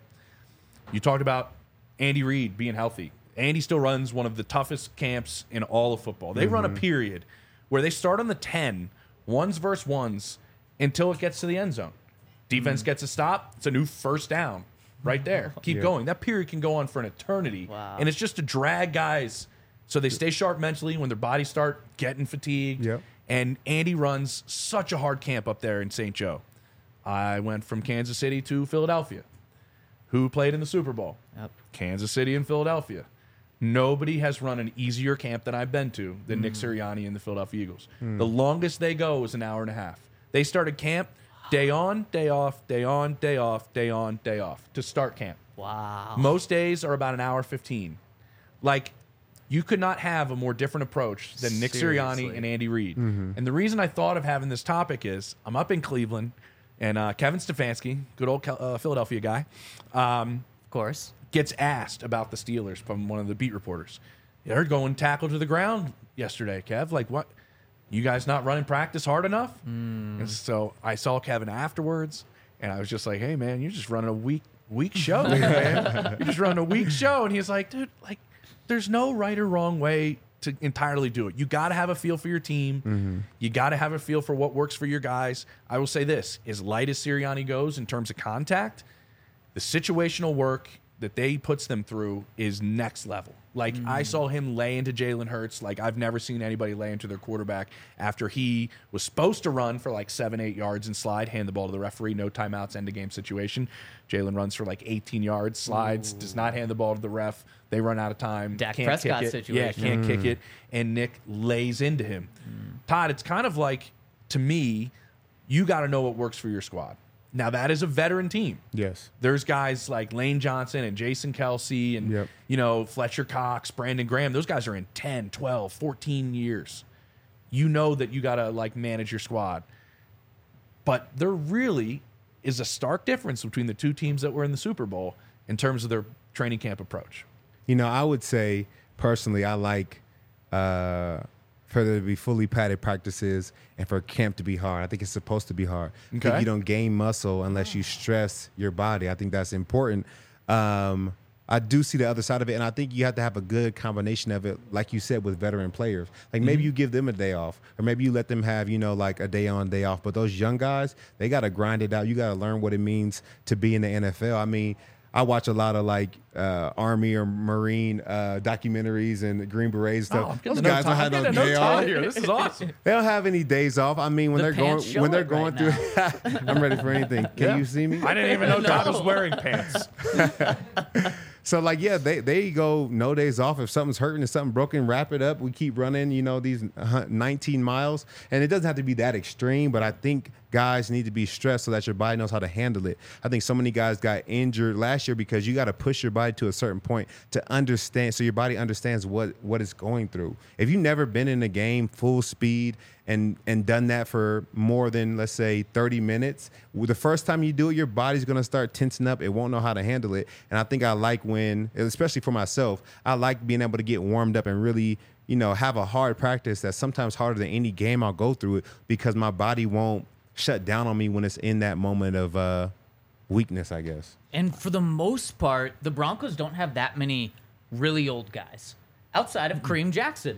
You talked about Andy Reid being healthy. Andy still runs one of the toughest camps in all of football. They run a period where they start on the 10, ones versus ones, until it gets to the end zone. Defense gets a stop. It's a new first down right there. Keep going. That period can go on for an eternity. Wow. And it's just to drag guys so they stay sharp mentally when their bodies start getting fatigued. Yep. And Andy runs such a hard camp up there in St. Joe. I went from Kansas City to Philadelphia. Who played in the Super Bowl? Yep. Kansas City and Philadelphia. Nobody has run an easier camp than I've been to than Nick Sirianni and the Philadelphia Eagles. The longest they go was an hour and a half. They started camp day on, day off, day on, day off, day on, day off to start camp. Wow. Most days are about an hour 15. Like, you could not have a more different approach than Nick Sirianni Seriously. and Andy Reid. And the reason I thought of having this topic is I'm up in Cleveland, and Kevin Stefanski, good old Philadelphia guy, Of course. gets asked about the Steelers from one of the beat reporters. They're going tackle to the ground yesterday, Kev. Like, what? You guys not running practice hard enough? And so I saw Kevin afterwards, and I was just like, hey, man, you're just running a weak show, man. You're just running a weak show. And he's like, dude, like, there's no right or wrong way to entirely do it. You got to have a feel for your team. You got to have a feel for what works for your guys. I will say this, as light as Sirianni goes in terms of contact, the situational work that they puts them through is next level. Like, I saw him lay into Jalen Hurts like I've never seen anybody lay into their quarterback after he was supposed to run for like 7-8 yards and slide, hand the ball to the referee, no timeouts, end of game situation. Jalen runs for like 18 yards, slides, does not hand the ball to the ref. They run out of time. Dak can't Prescott kick it. situation. Yeah, can't kick it. And Nick lays into him. Todd, it's kind of like, to me, you got to know what works for your squad. Now, that is a veteran team. Yes. There's guys like Lane Johnson and Jason Kelsey and, Yep. you know, Fletcher Cox, Brandon Graham. Those guys are in 10, 12, 14 years. You know that you got to, like, manage your squad. But there really is a stark difference between the two teams that were in the Super Bowl in terms of their training camp approach. You know, I would say personally, I like for there to be fully padded practices and for camp to be hard. I think it's supposed to be hard. I think Okay. you don't gain muscle unless you stress your body. I think that's important. I do see the other side of it, and I think you have to have a good combination of it, like you said, with veteran players. Like maybe you give them a day off, or maybe you let them have, you know, like a day on, day off. But those young guys, they got to grind it out. You got to learn what it means to be in the NFL. I mean, I watch a lot of like Army or Marine documentaries and Green Berets Oh, stuff. Those guys don't have no no day off. here. This is awesome. They don't have any days off. I mean, when The they're going pants show when they're it going right through, I'm ready for anything. Can Yeah. you see me? I didn't even know Todd was No. wearing pants. So like, yeah, they go no days off. If something's hurting, if something broken, wrap it up. We keep running, you know, these 19 miles, and it doesn't have to be that extreme. But I think guys need to be stressed so that your body knows how to handle it. I think so many guys got injured last year because you got to push your body to a certain point to understand, so your body understands what it's going through. If you've never been in a game full speed and done that for more than, let's say, 30 minutes, the first time you do it, your body's going to start tensing up. It won't know how to handle it. And I think I like when, especially for myself, I like being able to get warmed up and really, you know, have a hard practice that's sometimes harder than any game I'll go through it, because my body won't shut down on me when it's in that moment of weakness, I guess. And for the most part, the Broncos don't have that many really old guys outside of Kareem Jackson.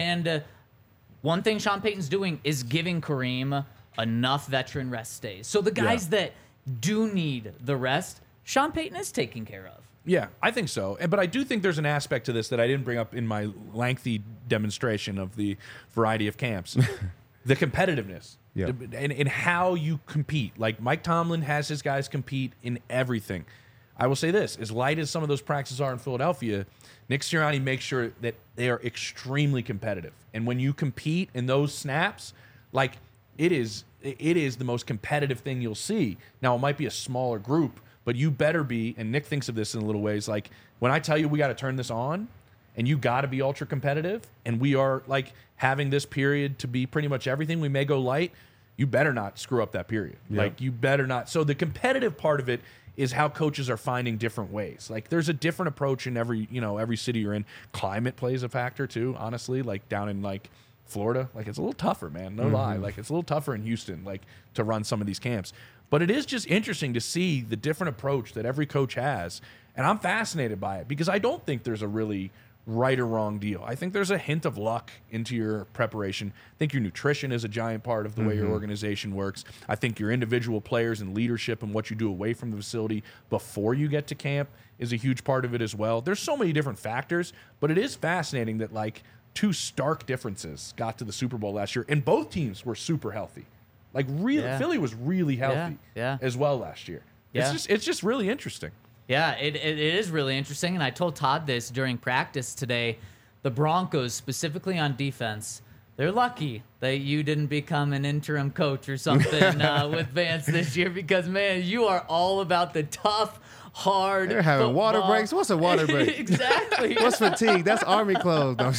One thing Sean Payton's doing is giving Kareem enough veteran rest days. So the guys that do need the rest, Sean Payton is taking care of. Yeah, I think so. But I do think there's an aspect to this that I didn't bring up in my lengthy demonstration of the variety of camps. The competitiveness. Yeah. And how you compete. Like Mike Tomlin has his guys compete in everything. I will say this: as light as some of those practices are in Philadelphia, Nick Sirianni makes sure that they are extremely competitive. And when you compete in those snaps, like it is the most competitive thing you'll see. Now, it might be a smaller group, but you better be, and Nick thinks of this in little ways, like when I tell you we got to turn this on and you got to be ultra competitive and we are like having this period to be pretty much everything, we may go light, you better not screw up that period. Yep. Like you better not. So the competitive part of it is how coaches are finding different ways. Like there's a different approach in every city you're in. Climate plays a factor too, honestly, like down in like Florida, like it's a little tougher, man. No lie. Like it's a little tougher in Houston, like to run some of these camps. But it is just interesting to see the different approach that every coach has. And I'm fascinated by it because I don't think there's a really right or wrong deal. I think there's a hint of luck into your preparation. I think your nutrition is a giant part of the way your organization works. I think your individual players and leadership and what you do away from the facility before you get to camp is a huge part of it as well. There's so many different factors, but it is fascinating that like two stark differences got to the Super Bowl last year, and both teams were super healthy. Like really, Philly was really healthy as well last year. Yeah. It's just really interesting. Yeah, it is really interesting, and I told Todd this during practice today. The Broncos, specifically on defense, they're lucky that you didn't become an interim coach or something with Vance this year because, man, you are all about the tough, hard They're having football. water breaks. What's a water break? Exactly. What's fatigue? That's Army clothes. No,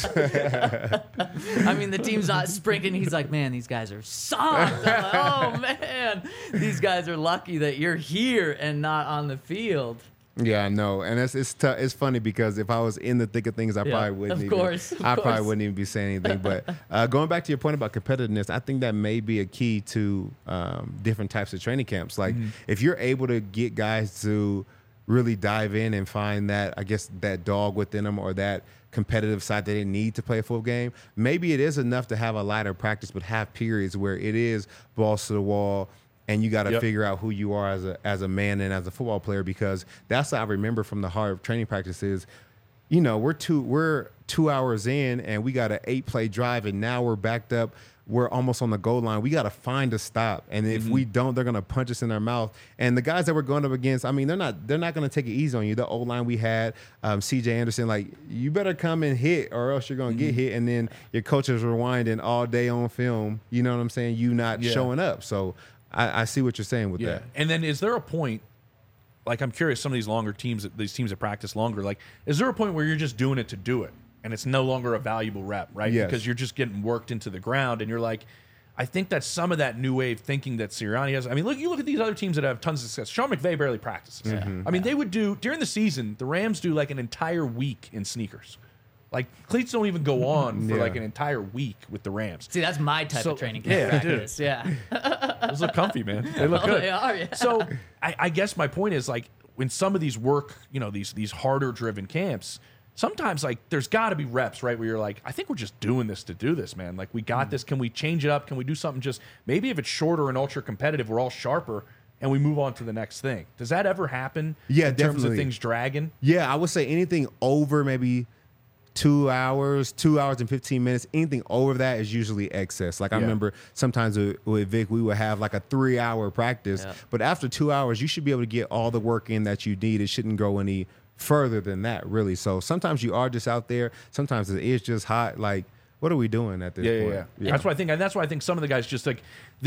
I mean, the team's not sprinting. He's like, man, these guys are soft. I'm like, oh, man. These guys are lucky that you're here and not on the field. Yeah, I know, and it's tough. It's funny because if I was in the thick of things, I probably wouldn't. Of course. I probably wouldn't even be saying anything. But going back to your point about competitiveness, I think that may be a key to different types of training camps. Like if you're able to get guys to really dive in and find that, I guess, that dog within them or that competitive side that they need to play a full game, maybe it is enough to have a lighter practice, but have periods where it is balls to the wall. And you got to figure out who you are as a man and as a football player, because that's what I remember from the hard training practices. You know, we're 2 hours in and we got an 8-play drive, and now we're backed up. We're almost on the goal line. We got to find a stop, and if we don't, they're going to punch us in our mouth. And the guys that we're going up against, I mean, they're not going to take it easy on you. The O-line we had, C.J. Anderson, like, you better come and hit or else you're going to get hit. And then your coach is rewinding all day on film. You know what I'm saying? You not showing up. So I see what you're saying with that. And then is there a point, like I'm curious, some of these longer teams, these teams that practice longer, like is there a point where you're just doing it to do it and it's no longer a valuable rep, right? Yes. Because you're just getting worked into the ground and you're like, I think that's some of that new wave thinking that Sirianni has. I mean, you look at these other teams that have tons of success. Sean McVay barely practices. I mean, they would do, during the season, the Rams do like an entire week in sneakers. Like, cleats don't even go on for like an entire week with the Rams. See, that's my type of training camp practice. Yeah. Those look comfy, man. They look good. They are, yeah. So I guess my point is, like, when some of these work, you know, these harder driven camps, sometimes like there's got to be reps, right, where you're like, I think we're just doing this to do this, man. Like, we got this. Can we change it up? Can we do something just maybe if it's shorter and ultra competitive, we're all sharper and we move on to the next thing. Does that ever happen? Yeah, in terms of definitely. things dragging? Yeah, I would say anything over maybe 2 hours, 2 hours and 15 minutes, anything over that is usually excess. Like I remember sometimes with Vic, we would have like a 3-hour practice, but after 2 hours, you should be able to get all the work in that you need. It shouldn't go any further than that, really. So sometimes you are just out there. Sometimes it is just hot. Like, what are we doing at this point? Yeah. That's what I think. And that's why I think some of the guys just like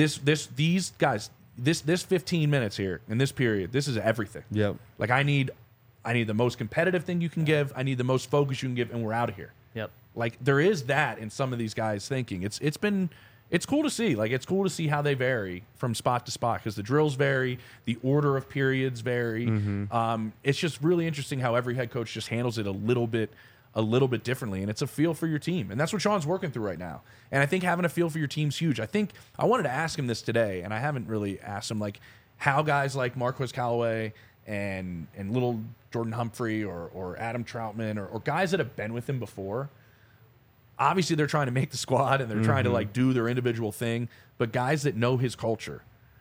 these guys, this 15 minutes here in this period, this is everything. Yep. Like I need the most competitive thing you can give. I need the most focus you can give, and we're out of here. Yep. Like there is that in some of these guys thinking. It's cool to see. Like it's cool to see how they vary from spot to spot because the drills vary, the order of periods vary. It's just really interesting how every head coach just handles it a little bit differently, and it's a feel for your team, and that's what Sean's working through right now. And I think having a feel for your team's huge. I think I wanted to ask him this today, and I haven't really asked him like how guys like Marquez Callaway and little Jordan Humphrey or Adam Troutman or guys that have been with him before. Obviously, they're trying to make the squad and they're trying to like do their individual thing. But guys that know his culture,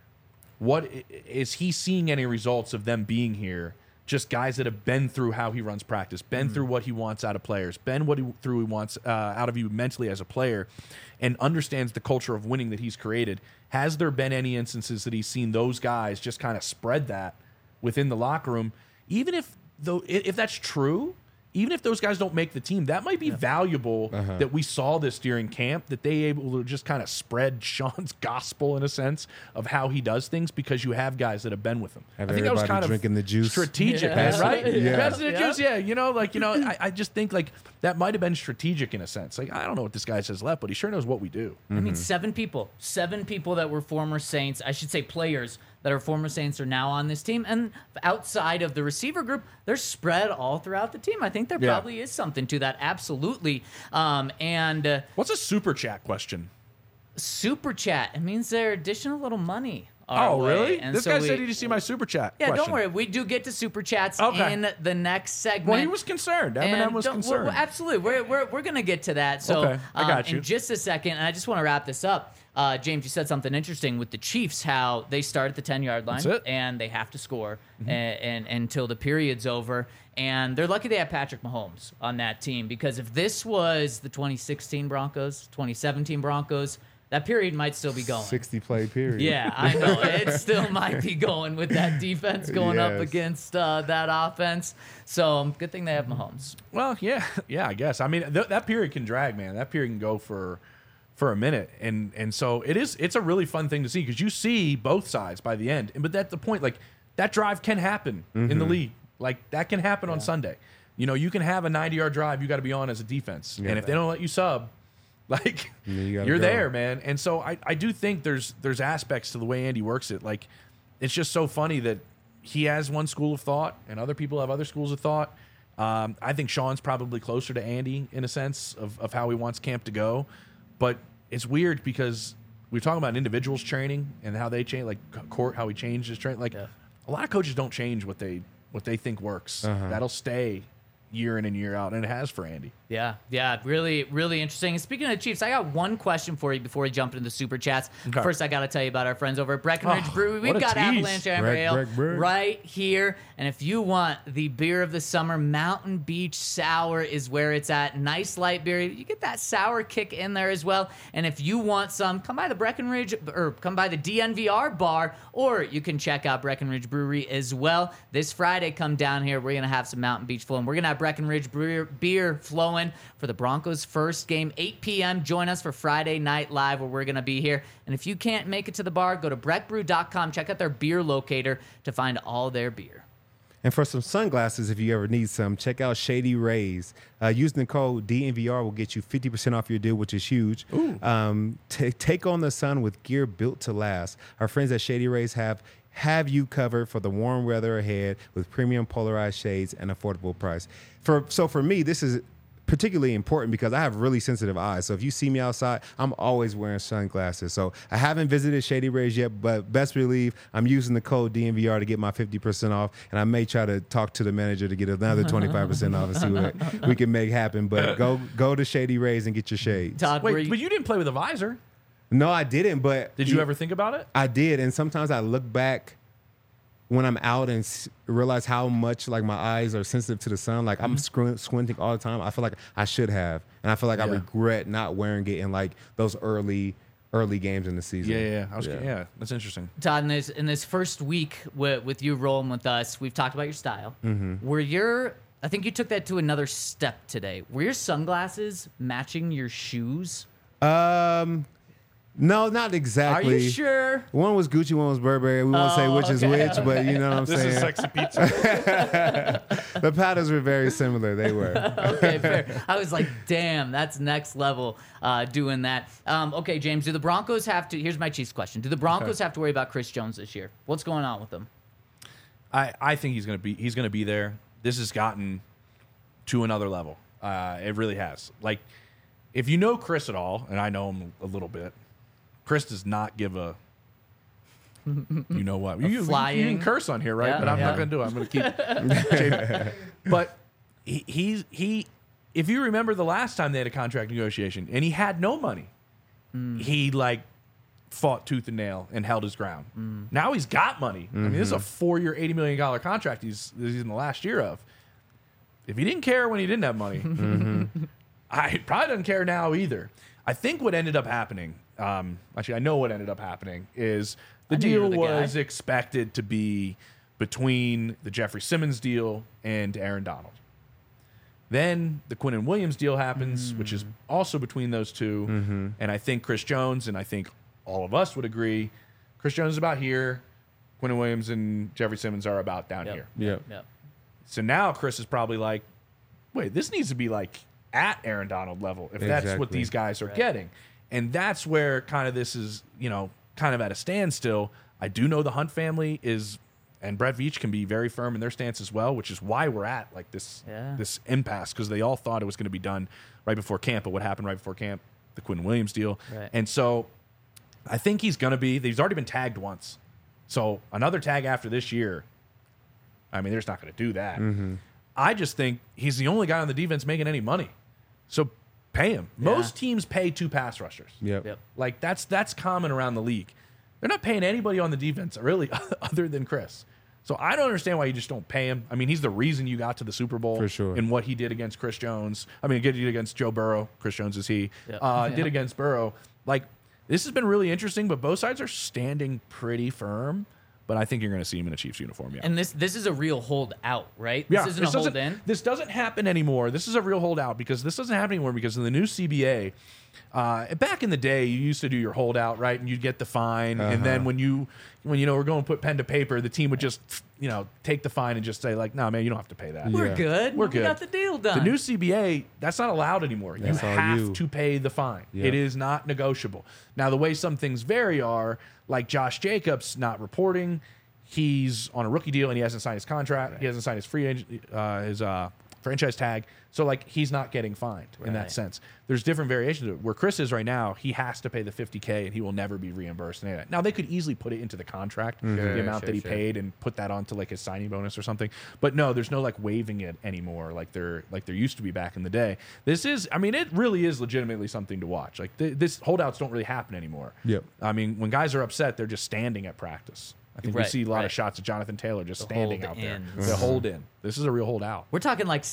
what is he seeing any results of them being here? Just guys that have been through how he runs practice, been through what he wants out of players, been what he wants out of you mentally as a player, and understands the culture of winning that he's created. Has there been any instances that he's seen those guys just kind of spread that within the locker room? even if that's true, even if those guys don't make the team, that might be valuable that we saw this during camp, that they able to just kind of spread Sean's gospel in a sense of how he does things because you have guys that have been with him. Have I think that was kind drinking of the juice. strategic, Yeah. right? Yeah. Passing the juice, yeah. I just think like that might have been strategic in a sense. Like, I don't know what this guy says left, but he sure knows what we do. I mean, seven people that were former Saints, I should say players that are former Saints are now on this team. And outside of the receiver group, they're spread all throughout the team. I think there probably is something to that. Absolutely. What's a super chat question? Super chat, it means they're dishing a little money our Oh, way. really? And This so guy we- said, did you see my super chat Yeah, question? don't worry. We do get to super chats Okay. in the next segment. Well, he was concerned. Eminem And was don't- concerned. well, absolutely. We're going to get to that. So Okay, I got you. in just a second, and I just want to wrap this up. James, you said something interesting with the Chiefs, how they start at the 10-yard line That's it. and they have to score and until the period's over. And they're lucky they have Patrick Mahomes on that team, because if this was the 2016 Broncos, 2017 Broncos, that period might still be going. 60 play period. Yeah, I know. It still might be going with that defense going up Yes. against that offense. So good thing they have Mahomes. Well, yeah, I guess. I mean, that period can drag, man. That period can go for a minute, and so it's a really fun thing to see because you see both sides by the end. But that's the point. Like, that drive can happen in the league. Like, that can happen on Sunday. You know, you can have a 90-yard drive. You got to be on as a defense, and if they don't let you sub, like, You you're gotta go. there, man. And so I do think there's aspects to the way Andy works it. Like, it's just so funny that he has one school of thought and other people have other schools of thought. I think Sean's probably closer to Andy in a sense of how he wants camp to go. But it's weird because we're talking about individuals training and how they change, like Court, how he changed his training. Like, a lot of coaches don't change what they think works. That'll stay year in and year out, and it has for Andy. Yeah, really, really interesting. And speaking of the Chiefs, I got one question for you before we jump into the super chats. Okay. First, I got to tell you about our friends over at Breckenridge Brewery. We've what a got tease. Avalanche Amber Breck, Ale Breck, Breck. right here. And if you want the beer of the summer, Mountain Beach Sour is where it's at. Nice light beer. You get that sour kick in there as well. And if you want some, come by the Breckenridge or come by the DNVR bar, or you can check out Breckenridge Brewery as well. This Friday, come down here. We're going to have some Mountain Beach flowing. We're going to have Breckenridge beer flowing for the Broncos' first game, 8 p.m. Join us for Friday Night Live, where we're going to be here. And if you can't make it to the bar, go to breckbrew.com. Check out their beer locator to find all their beer. And for some sunglasses, if you ever need some, check out Shady Rays. Using the code DNVR will get you 50% off your deal, which is huge. Take on the sun with gear built to last. Our friends at Shady Rays have you covered for the warm weather ahead with premium polarized shades and affordable price. For me, this is particularly important because I have really sensitive eyes. So if you see me outside, I'm always wearing sunglasses. So I haven't visited Shady Rays yet, but best believe I'm using the code DNVR to get my 50% off. And I may try to talk to the manager to get another 25% off and see what we can make happen. But go to Shady Rays and get your shades. Todd, Wait, but you didn't play with a visor. No, I didn't, but Did you ever think about it? I did, and sometimes I look back when I'm out and realize how much like my eyes are sensitive to the sun. Like I'm squinting all the time. I feel like I should have, and I feel like I regret not wearing it in like those early games in the season. Yeah, that's interesting. Todd, in this first week with you rolling with us, we've talked about your style. I think you took that to another step today. Were your sunglasses matching your shoes? No, not exactly. Are you sure? One was Gucci, one was Burberry. We won't say which is which, but you know what I'm This saying. is sexy pizza. The patterns were very similar. They were. Okay, fair. I was like, damn, that's next level doing that. Okay, James, do the Broncos have to, here's my Chiefs question. Do the Broncos have to worry about Chris Jones this year? What's going on with them? I think he's gonna be there. This has gotten to another level. It really has. Like, if you know Chris at all, and I know him a little bit, Chris does not give a you know what. You can curse on here, right? Yeah, but I'm yeah. not gonna do it. I'm gonna keep but he if you remember the last time they had a contract negotiation and he had no money, he like fought tooth and nail and held his ground. Now he's got money. I mean, this is a 4-year, $80 million contract he's in the last year of. If he didn't care when he didn't have money, I probably doesn't care now either. I think what ended up happening, actually, I know what ended up happening is the deal was expected to be between the Jeffrey Simmons deal and Aaron Donald. Then the Quinnen Williams deal happens, which is also between those two. And I think Chris Jones, and I think all of us would agree, Chris Jones is about here. Quinnen Williams and Jeffrey Simmons are about down here. Yep. So now Chris is probably like, wait, this needs to be like at Aaron Donald level if that's what Exactly. these guys are getting. And that's where kind of this is, kind of at a standstill. I do know the Hunt family is, and Brett Veach can be very firm in their stance as well, which is why we're at like this impasse, because they all thought it was going to be done right before camp. But what happened right before camp? The Quinnen Williams deal. Right. And so I think he's already been tagged once. So another tag after this year, I mean, they're just not going to do that. I just think he's the only guy on the defense making any money. So pay him. Most teams pay 2 pass rushers. Yep. Like that's common around the league. They're not paying anybody on the defense really other than Chris. So I don't understand why you just don't pay him. I mean, he's the reason you got to the Super Bowl For sure. in what he did against Chris Jones. I mean, did against Joe Burrow. Chris Jones is he. Did against Burrow. Like, this has been really interesting, but both sides are standing pretty firm. But I think you're going to see him in a Chiefs uniform, yeah. And this is a real holdout, right? Yeah, This isn't a hold in. This doesn't happen anymore. This is a real holdout because this doesn't happen anymore because in the new CBA, back in the day, you used to do your holdout, right? And you'd get the fine. And then when we're going to put pen to paper, the team would just, take the fine and just say like, no, man, you don't have to pay that. We're Yeah. good. We're We good. got the deal done. The new CBA, that's not allowed anymore. That's you all have you. to pay the fine. Yeah. It is not negotiable. Now, the way some things vary are like Josh Jacobs not reporting. He's on a rookie deal and he hasn't signed his contract. Right. He hasn't signed his free agent, his franchise tag. So like he's not getting fined in that Right. sense. There's different variations of it. Where Chris is right now, he has to pay the $50K and he will never be reimbursed. Now they could easily put it into the contract, the amount that he paid, and put that onto like his signing bonus or something. But no, there's no like waiving it anymore like there used to be back in the day. This is, I mean, it really is legitimately something to watch. Like this holdouts don't really happen anymore. Yep. I mean, when guys are upset, they're just standing at practice. I think we Right, see a lot right. of shots of Jonathan Taylor just standing hold out there. ins. The hold in. This is a real holdout. We're talking like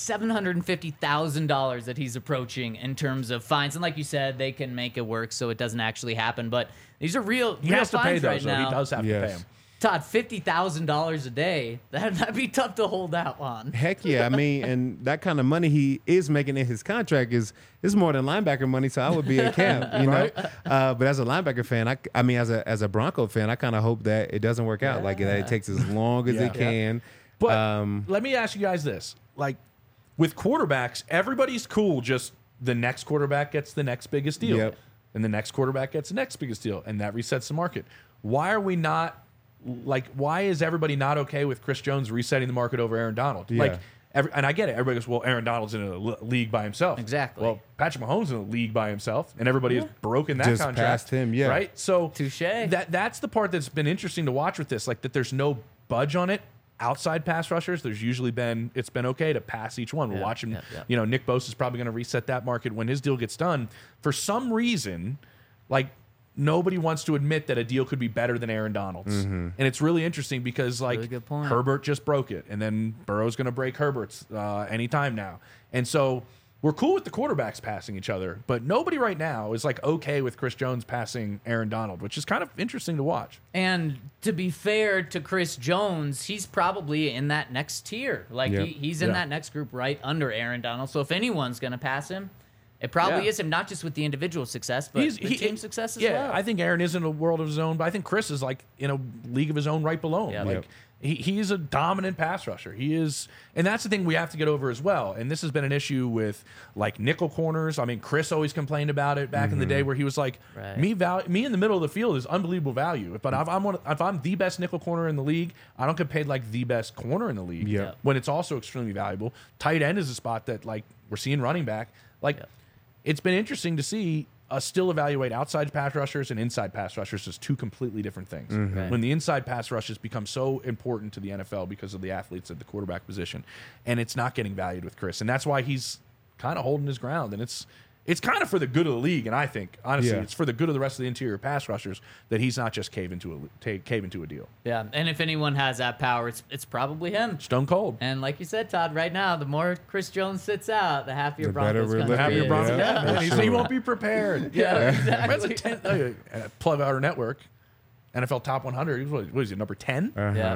$750,000 that he's approaching in terms of fines, and like you said, they can make it work so it doesn't actually happen. But these are real. He real has to pay fines those, right though. now. He does have to pay Yes. them. Todd, $50,000 a day. That'd be tough to hold out on. Heck yeah. I mean, and that kind of money he is making in his contract is more than linebacker money, so I would be at camp, you know. But as a linebacker fan, I mean, as a Bronco fan, I kind of hope that it doesn't work out, like that it takes as long as it can. But let me ask you guys this. Like, with quarterbacks, everybody's cool. Just the next quarterback gets the next biggest deal. Yep. And the next quarterback gets the next biggest deal. And that resets the market. Why are we not, like, why is everybody not okay with Chris Jones resetting the market over Aaron Donald? Yeah. Like, and I get it. Everybody goes, well, Aaron Donald's in a league by himself. Exactly. Well, Patrick Mahomes is in a league by himself, and everybody has broken that Just contract. past him, yeah. Right? So, Touché. That's the part that's been interesting to watch with this, like that there's no budge on it. Outside pass rushers, there's usually it's been okay to pass each one. We're watching, Nick Bosa is probably going to reset that market when his deal gets done. For some reason, like, nobody wants to admit that a deal could be better than Aaron Donald's. And it's really interesting because, like, Really good point. Herbert just broke it, and then Burrow's going to break Herbert's anytime now. And so we're cool with the quarterbacks passing each other, but nobody right now is, like, okay with Chris Jones passing Aaron Donald, which is kind of interesting to watch. And to be fair to Chris Jones, he's probably in that next tier. Like, Yep. he's in Yeah. that next group right under Aaron Donald. So if anyone's going to pass him, it probably Yeah. is him, not just with the individual success, but the team success as well. I think Aaron is in a world of his own, but I think Chris is like in a league of his own right below him. Yeah. Like Yep. he's a dominant pass rusher. He is, and that's the thing we have to get over as well. And this has been an issue with like nickel corners. I mean, Chris always complained about it back in the day where he was like, Right. me in the middle of the field is unbelievable value. But if I'm the best nickel corner in the league, I don't get paid like the best corner in the league. Yep. When it's also extremely valuable. Tight end is a spot that like we're seeing running back. Like it's been interesting to see us still evaluate outside pass rushers and inside pass rushers as two completely different things. Right. When the inside pass rushes become so important to the NFL because of the athletes at the quarterback position, and it's not getting valued with Chris, and that's why he's kind of holding his ground, and it's kind of for the good of the league, and I think honestly, Yeah. it's for the good of the rest of the interior pass rushers that he's not just cave into a deal. Yeah, and if anyone has that power, it's probably him. Stone cold. And like you said, Todd, right now, the more Chris Jones sits out, the happier The better Broncos we're country looking. Happier is. Broncos. Yeah, Yeah, for he sure. won't be prepared. Yeah, That's exactly. a 12-hour network, NFL Top 100. What is he, number 10? Yeah.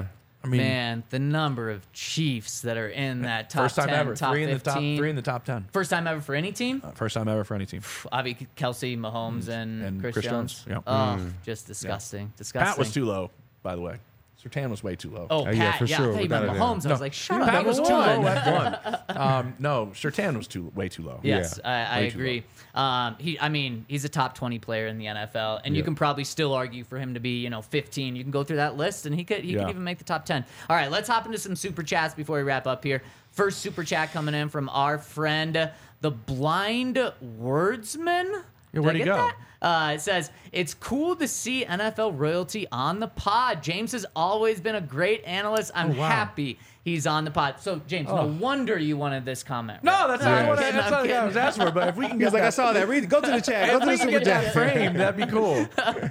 I mean, Man, the number of Chiefs that are in that top first time 10, ever, top 15. three in the top 10. First time ever for any team? First time ever for any team. Obviously, Kelsey, Mahomes, and Chris Jones. Yeah. Oh, just disgusting. Disgusting. Pat was too low, by the way. Surtain was way too low. Oh, Pat, yeah, for yeah. sure, I thought you without meant a doubt. Mahomes. I was like, shut up. Pat was number too one. low at one. No, Surtain was way too low. Yes, Yeah. I Way too agree. He's a top 20 player in the NFL, and you can probably still argue for him to be, 15. You can go through that list, and he could even make the top 10. All right, let's hop into some super chats before we wrap up here. First super chat coming in from our friend, the Blind Wordsman. Yeah, where'd Did I he get go? that? It says, it's cool to see NFL royalty on the pod. James has always been a great analyst. I'm wow. happy he's on the pod. So, James, no wonder you wanted this comment. No, right? that's Yeah. not what I'm that's not what I was asking for. But if we can He get was like, that, I saw that. Read, go to the chat. Go if to we the can super get that chat. frame, that'd be cool.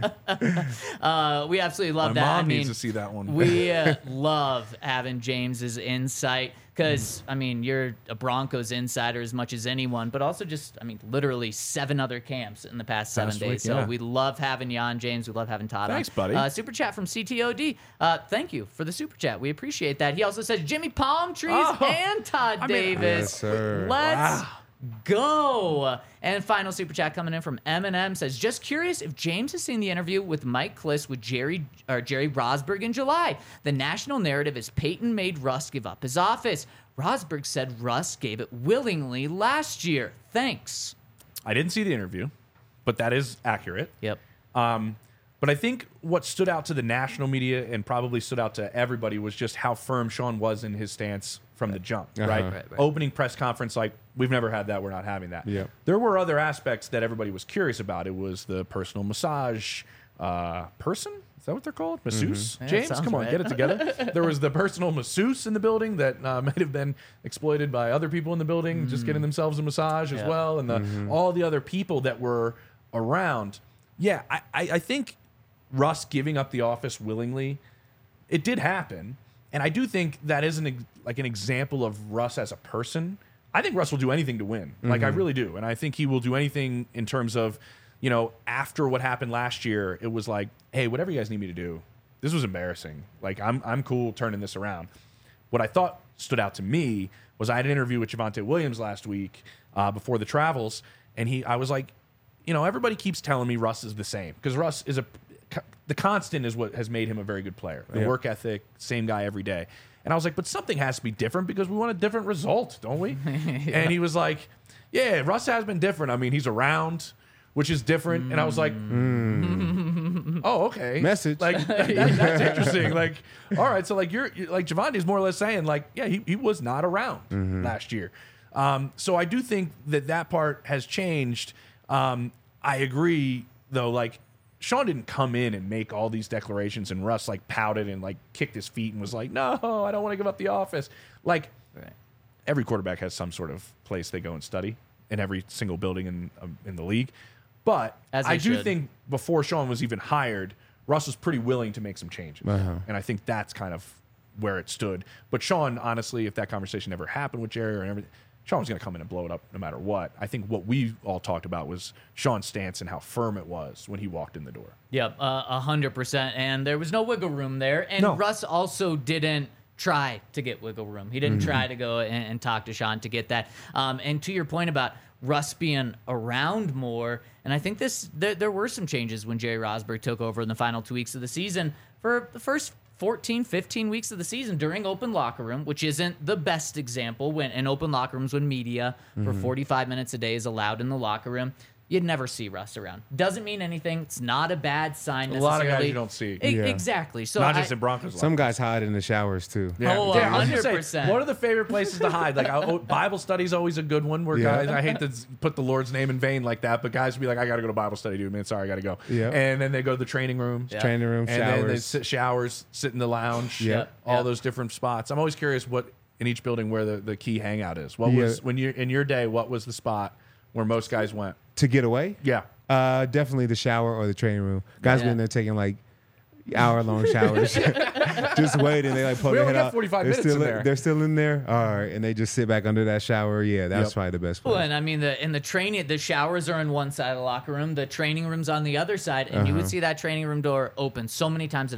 We absolutely love My that. mom needs to see that one. We love having James's insight because, you're a Broncos insider as much as anyone, but also just, literally 7 other camps in the past 7 Past days. week, So yeah. we love having you on, James. We love having Todd Thanks, on. buddy. Super chat from CTOD. Thank you for the super chat. We appreciate that. He also says Jimmy Palm Trees Oh, and Todd Davis. Yes, sir. Let's Wow. go. And final super chat coming in from Eminem says, just curious if James has seen the interview with Mike Kliss with Jerry Rosburg in July. The national narrative is Peyton made Russ give up his office. Rosburg said Russ gave it willingly last year. Thanks. I didn't see the interview, but that is accurate. Yep. But I think what stood out to the national media and probably stood out to everybody was just how firm Sean was in his stance from the jump, right? Right. Opening press conference, like, we've never had that, we're not having that. Yeah. There were other aspects that everybody was curious about. It was the personal massage person. Is that what they're called? Masseuse? Yeah, James, sounds come on, right. get it together. There was the personal masseuse in the building that might have been exploited by other people in the building, just getting themselves a massage as Yeah. well, and all the other people that were around. Yeah, I think Russ giving up the office willingly, it did happen. And I do think that is an example of Russ as a person. I think Russ will do anything to win. Like, I really do. And I think he will do anything in terms of, after what happened last year, it was like, hey, whatever you guys need me to do, this was embarrassing. Like, I'm cool turning this around. What I thought stood out to me was I had an interview with Javonte Williams last week before the travels, and I was like, everybody keeps telling me Russ is the same, because Russ is the constant is what has made him a very good player. The Yeah. work ethic, same guy every day. And I was like, but something has to be different because we want a different result, don't we? And he was like, yeah, Russ has been different. He's around, which is different. And I was like, oh, okay. Message. Like, that's interesting. Like, all right. So, like, you're like, Javonte's more or less saying, like, yeah, he was not around last year. So I do think that part has changed. I agree, though, like, Sean didn't come in and make all these declarations, and Russ like pouted and like kicked his feet and was like, no, I don't want to give up the office. Like, every quarterback has some sort of place they go and study in every single building in the league. But As they I do should. think before Sean was even hired, Russ was pretty willing to make some changes. And I think that's kind of where it stood. But Sean, honestly, if that conversation never happened with Jerry or everything, Sean was going to come in and blow it up no matter what. I think what we all talked about was Sean's stance and how firm it was when he walked in the door. Yep, 100%. And there was no wiggle room there. And No. Russ also didn't try to get wiggle room. He didn't try to go and talk to Sean to get that. And to your point about Russ being around more, and I think there were some changes when Jerry Rosburg took over in the final 2 weeks of the season. For the first 14, 15 weeks of the season during open locker room, which isn't the best example when in open locker rooms when media for 45 minutes a day is allowed in the locker room. You'd never see Russ around. Doesn't mean anything. It's not a bad sign A necessarily. lot of guys you don't see. Yeah. Exactly. So Not just I- in Broncos. Some guys hide in the showers too. Oh, I was gonna say, 100%. what are the favorite places to hide? Like, Bible study is always a good one where Yeah. guys, I hate to put the Lord's name in vain like that, but guys would be like, I got to go to Bible study, dude, man. Sorry, I got to go. Yeah. And then they go to the training room. Yeah. Training room, And then they showers. sit in the lounge. Yeah. All Yeah. those different spots. I'm always curious what in each building where the key hangout is. What Yeah. was, when you in your day, what was the spot where most guys went? To get away? Yeah. Definitely the shower or the training room. Guys Yeah. be in there taking like hour-long showers, just waiting. They like pull We their only head got out. 45 they're minutes still in there. They're still in there. All right, and they just sit back under that shower. Yeah, that's Yep. probably the best Well, place. and I mean, in the training, the showers are on one side of the locker room, the training room's on the other side, and you would see that training room door open so many times a day.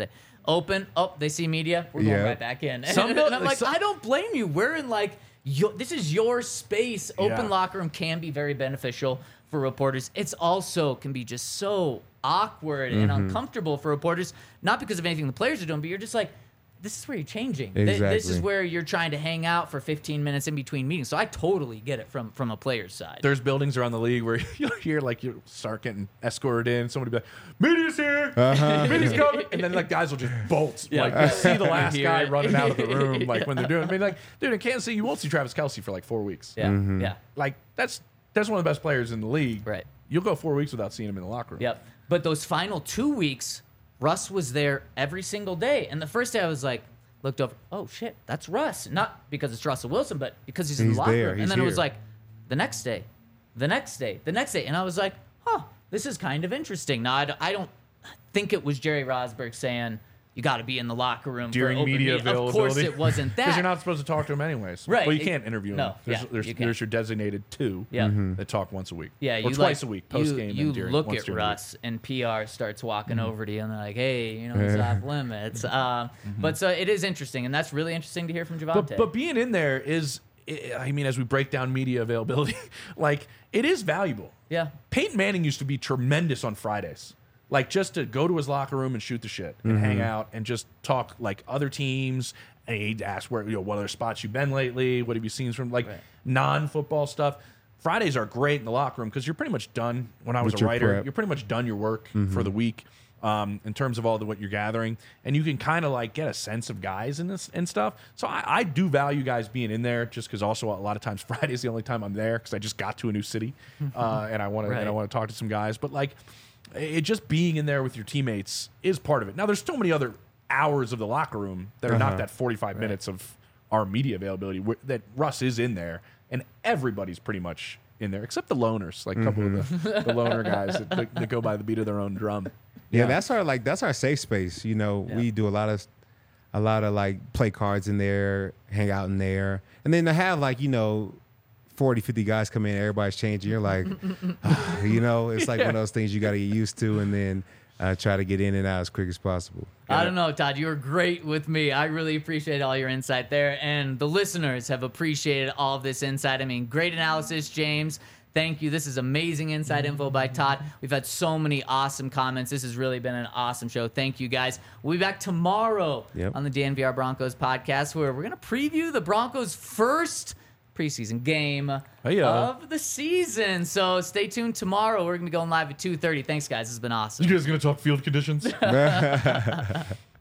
open. Oh, they see media. We're going Yeah. right back in. Some And don't- I'm like, some- I don't blame you. We're in like, this is your space. Open Yeah. locker room can be very beneficial for reporters. It's also can be just so awkward and uncomfortable for reporters, not because of anything the players are doing, but you're just like, this is where you're changing. This is Exactly. where you're trying to hang out for 15 minutes in between meetings. So I totally get it from a player's side. There's buildings around the league where you'll hear like you start getting escorted in. Somebody be like, "Media's here, media's coming," and then like guys will just bolt. Yeah. Like you see the You last hear guy it. running out of the room, like when they're doing. I mean, like, dude, in Kansas City, you won't see Travis Kelce for like 4 weeks. Yeah, yeah. Like that's one of the best players in the league. Right. You'll go 4 weeks without seeing him in the locker room. Yep. But those final 2 weeks, Russ was there every single day. And the first day I was like, looked over, oh shit, that's Russ. Not because it's Russell Wilson, but because he's in the He's locker there, room. he's And then it was here. like, the next day, the next day, the next day. And I was like, huh, this is kind of interesting. Now, I don't think it was Jerry Rosberg saying, you got to be in the locker room During for open media Of course availability. it wasn't that. Because you're not supposed to talk to him anyways. Right. Well, you can't interview him. No, There's, yeah, there's, you can't. there's your designated two Yeah. that talk once a week. Yeah, or you twice like, a week, post game. You and during, look once at during the week. Russ, and PR starts walking over to you, and they're like, "Hey, you know, he's off limits." But so it is interesting, and that's really interesting to hear from Javonte. But being in there is, I mean, as we break down media availability, like it is valuable. yeah, Peyton Manning used to be tremendous on Fridays. Like just to go to his locker room and shoot the shit and hang out and just talk like other teams. And he'd ask what other spots you've been lately? What have you seen from like Right. non-football stuff? Fridays are great in the locker room because you're pretty much done. When I was With a your writer, prep. you're pretty much done your work for the week in terms of all what you're gathering, and you can kind of like get a sense of guys in this and stuff. So I do value guys being in there just because also a lot of times Friday is the only time I'm there because I just got to a new city and I want to talk to some guys. But like it just being in there with your teammates is part of it. Now there's so many other hours of the locker room that are not that 45 minutes of our media availability that Russ is in there, and everybody's pretty much in there except the loners, like a couple of the loner guys that go by the beat of their own drum. Yeah, that's our safe space. You know, we do a lot of like play cards in there, hang out in there, and then to have like 40, 50 guys come in, everybody's changing. You're like, it's like one of those things you got to get used to, and then try to get in and out as quick as possible. I don't know, Todd. You were great with me. I really appreciate all your insight there, and the listeners have appreciated all of this insight. I mean, great analysis, James. Thank you. This is amazing inside info by Todd. We've had so many awesome comments. This has really been an awesome show. Thank you, guys. We'll be back tomorrow on the DNVR Broncos podcast, where we're going to preview the Broncos' first preseason game of the season. So stay tuned tomorrow. We're going to be going live at 2:30. Thanks, guys. This has been awesome. You guys gonna talk field conditions?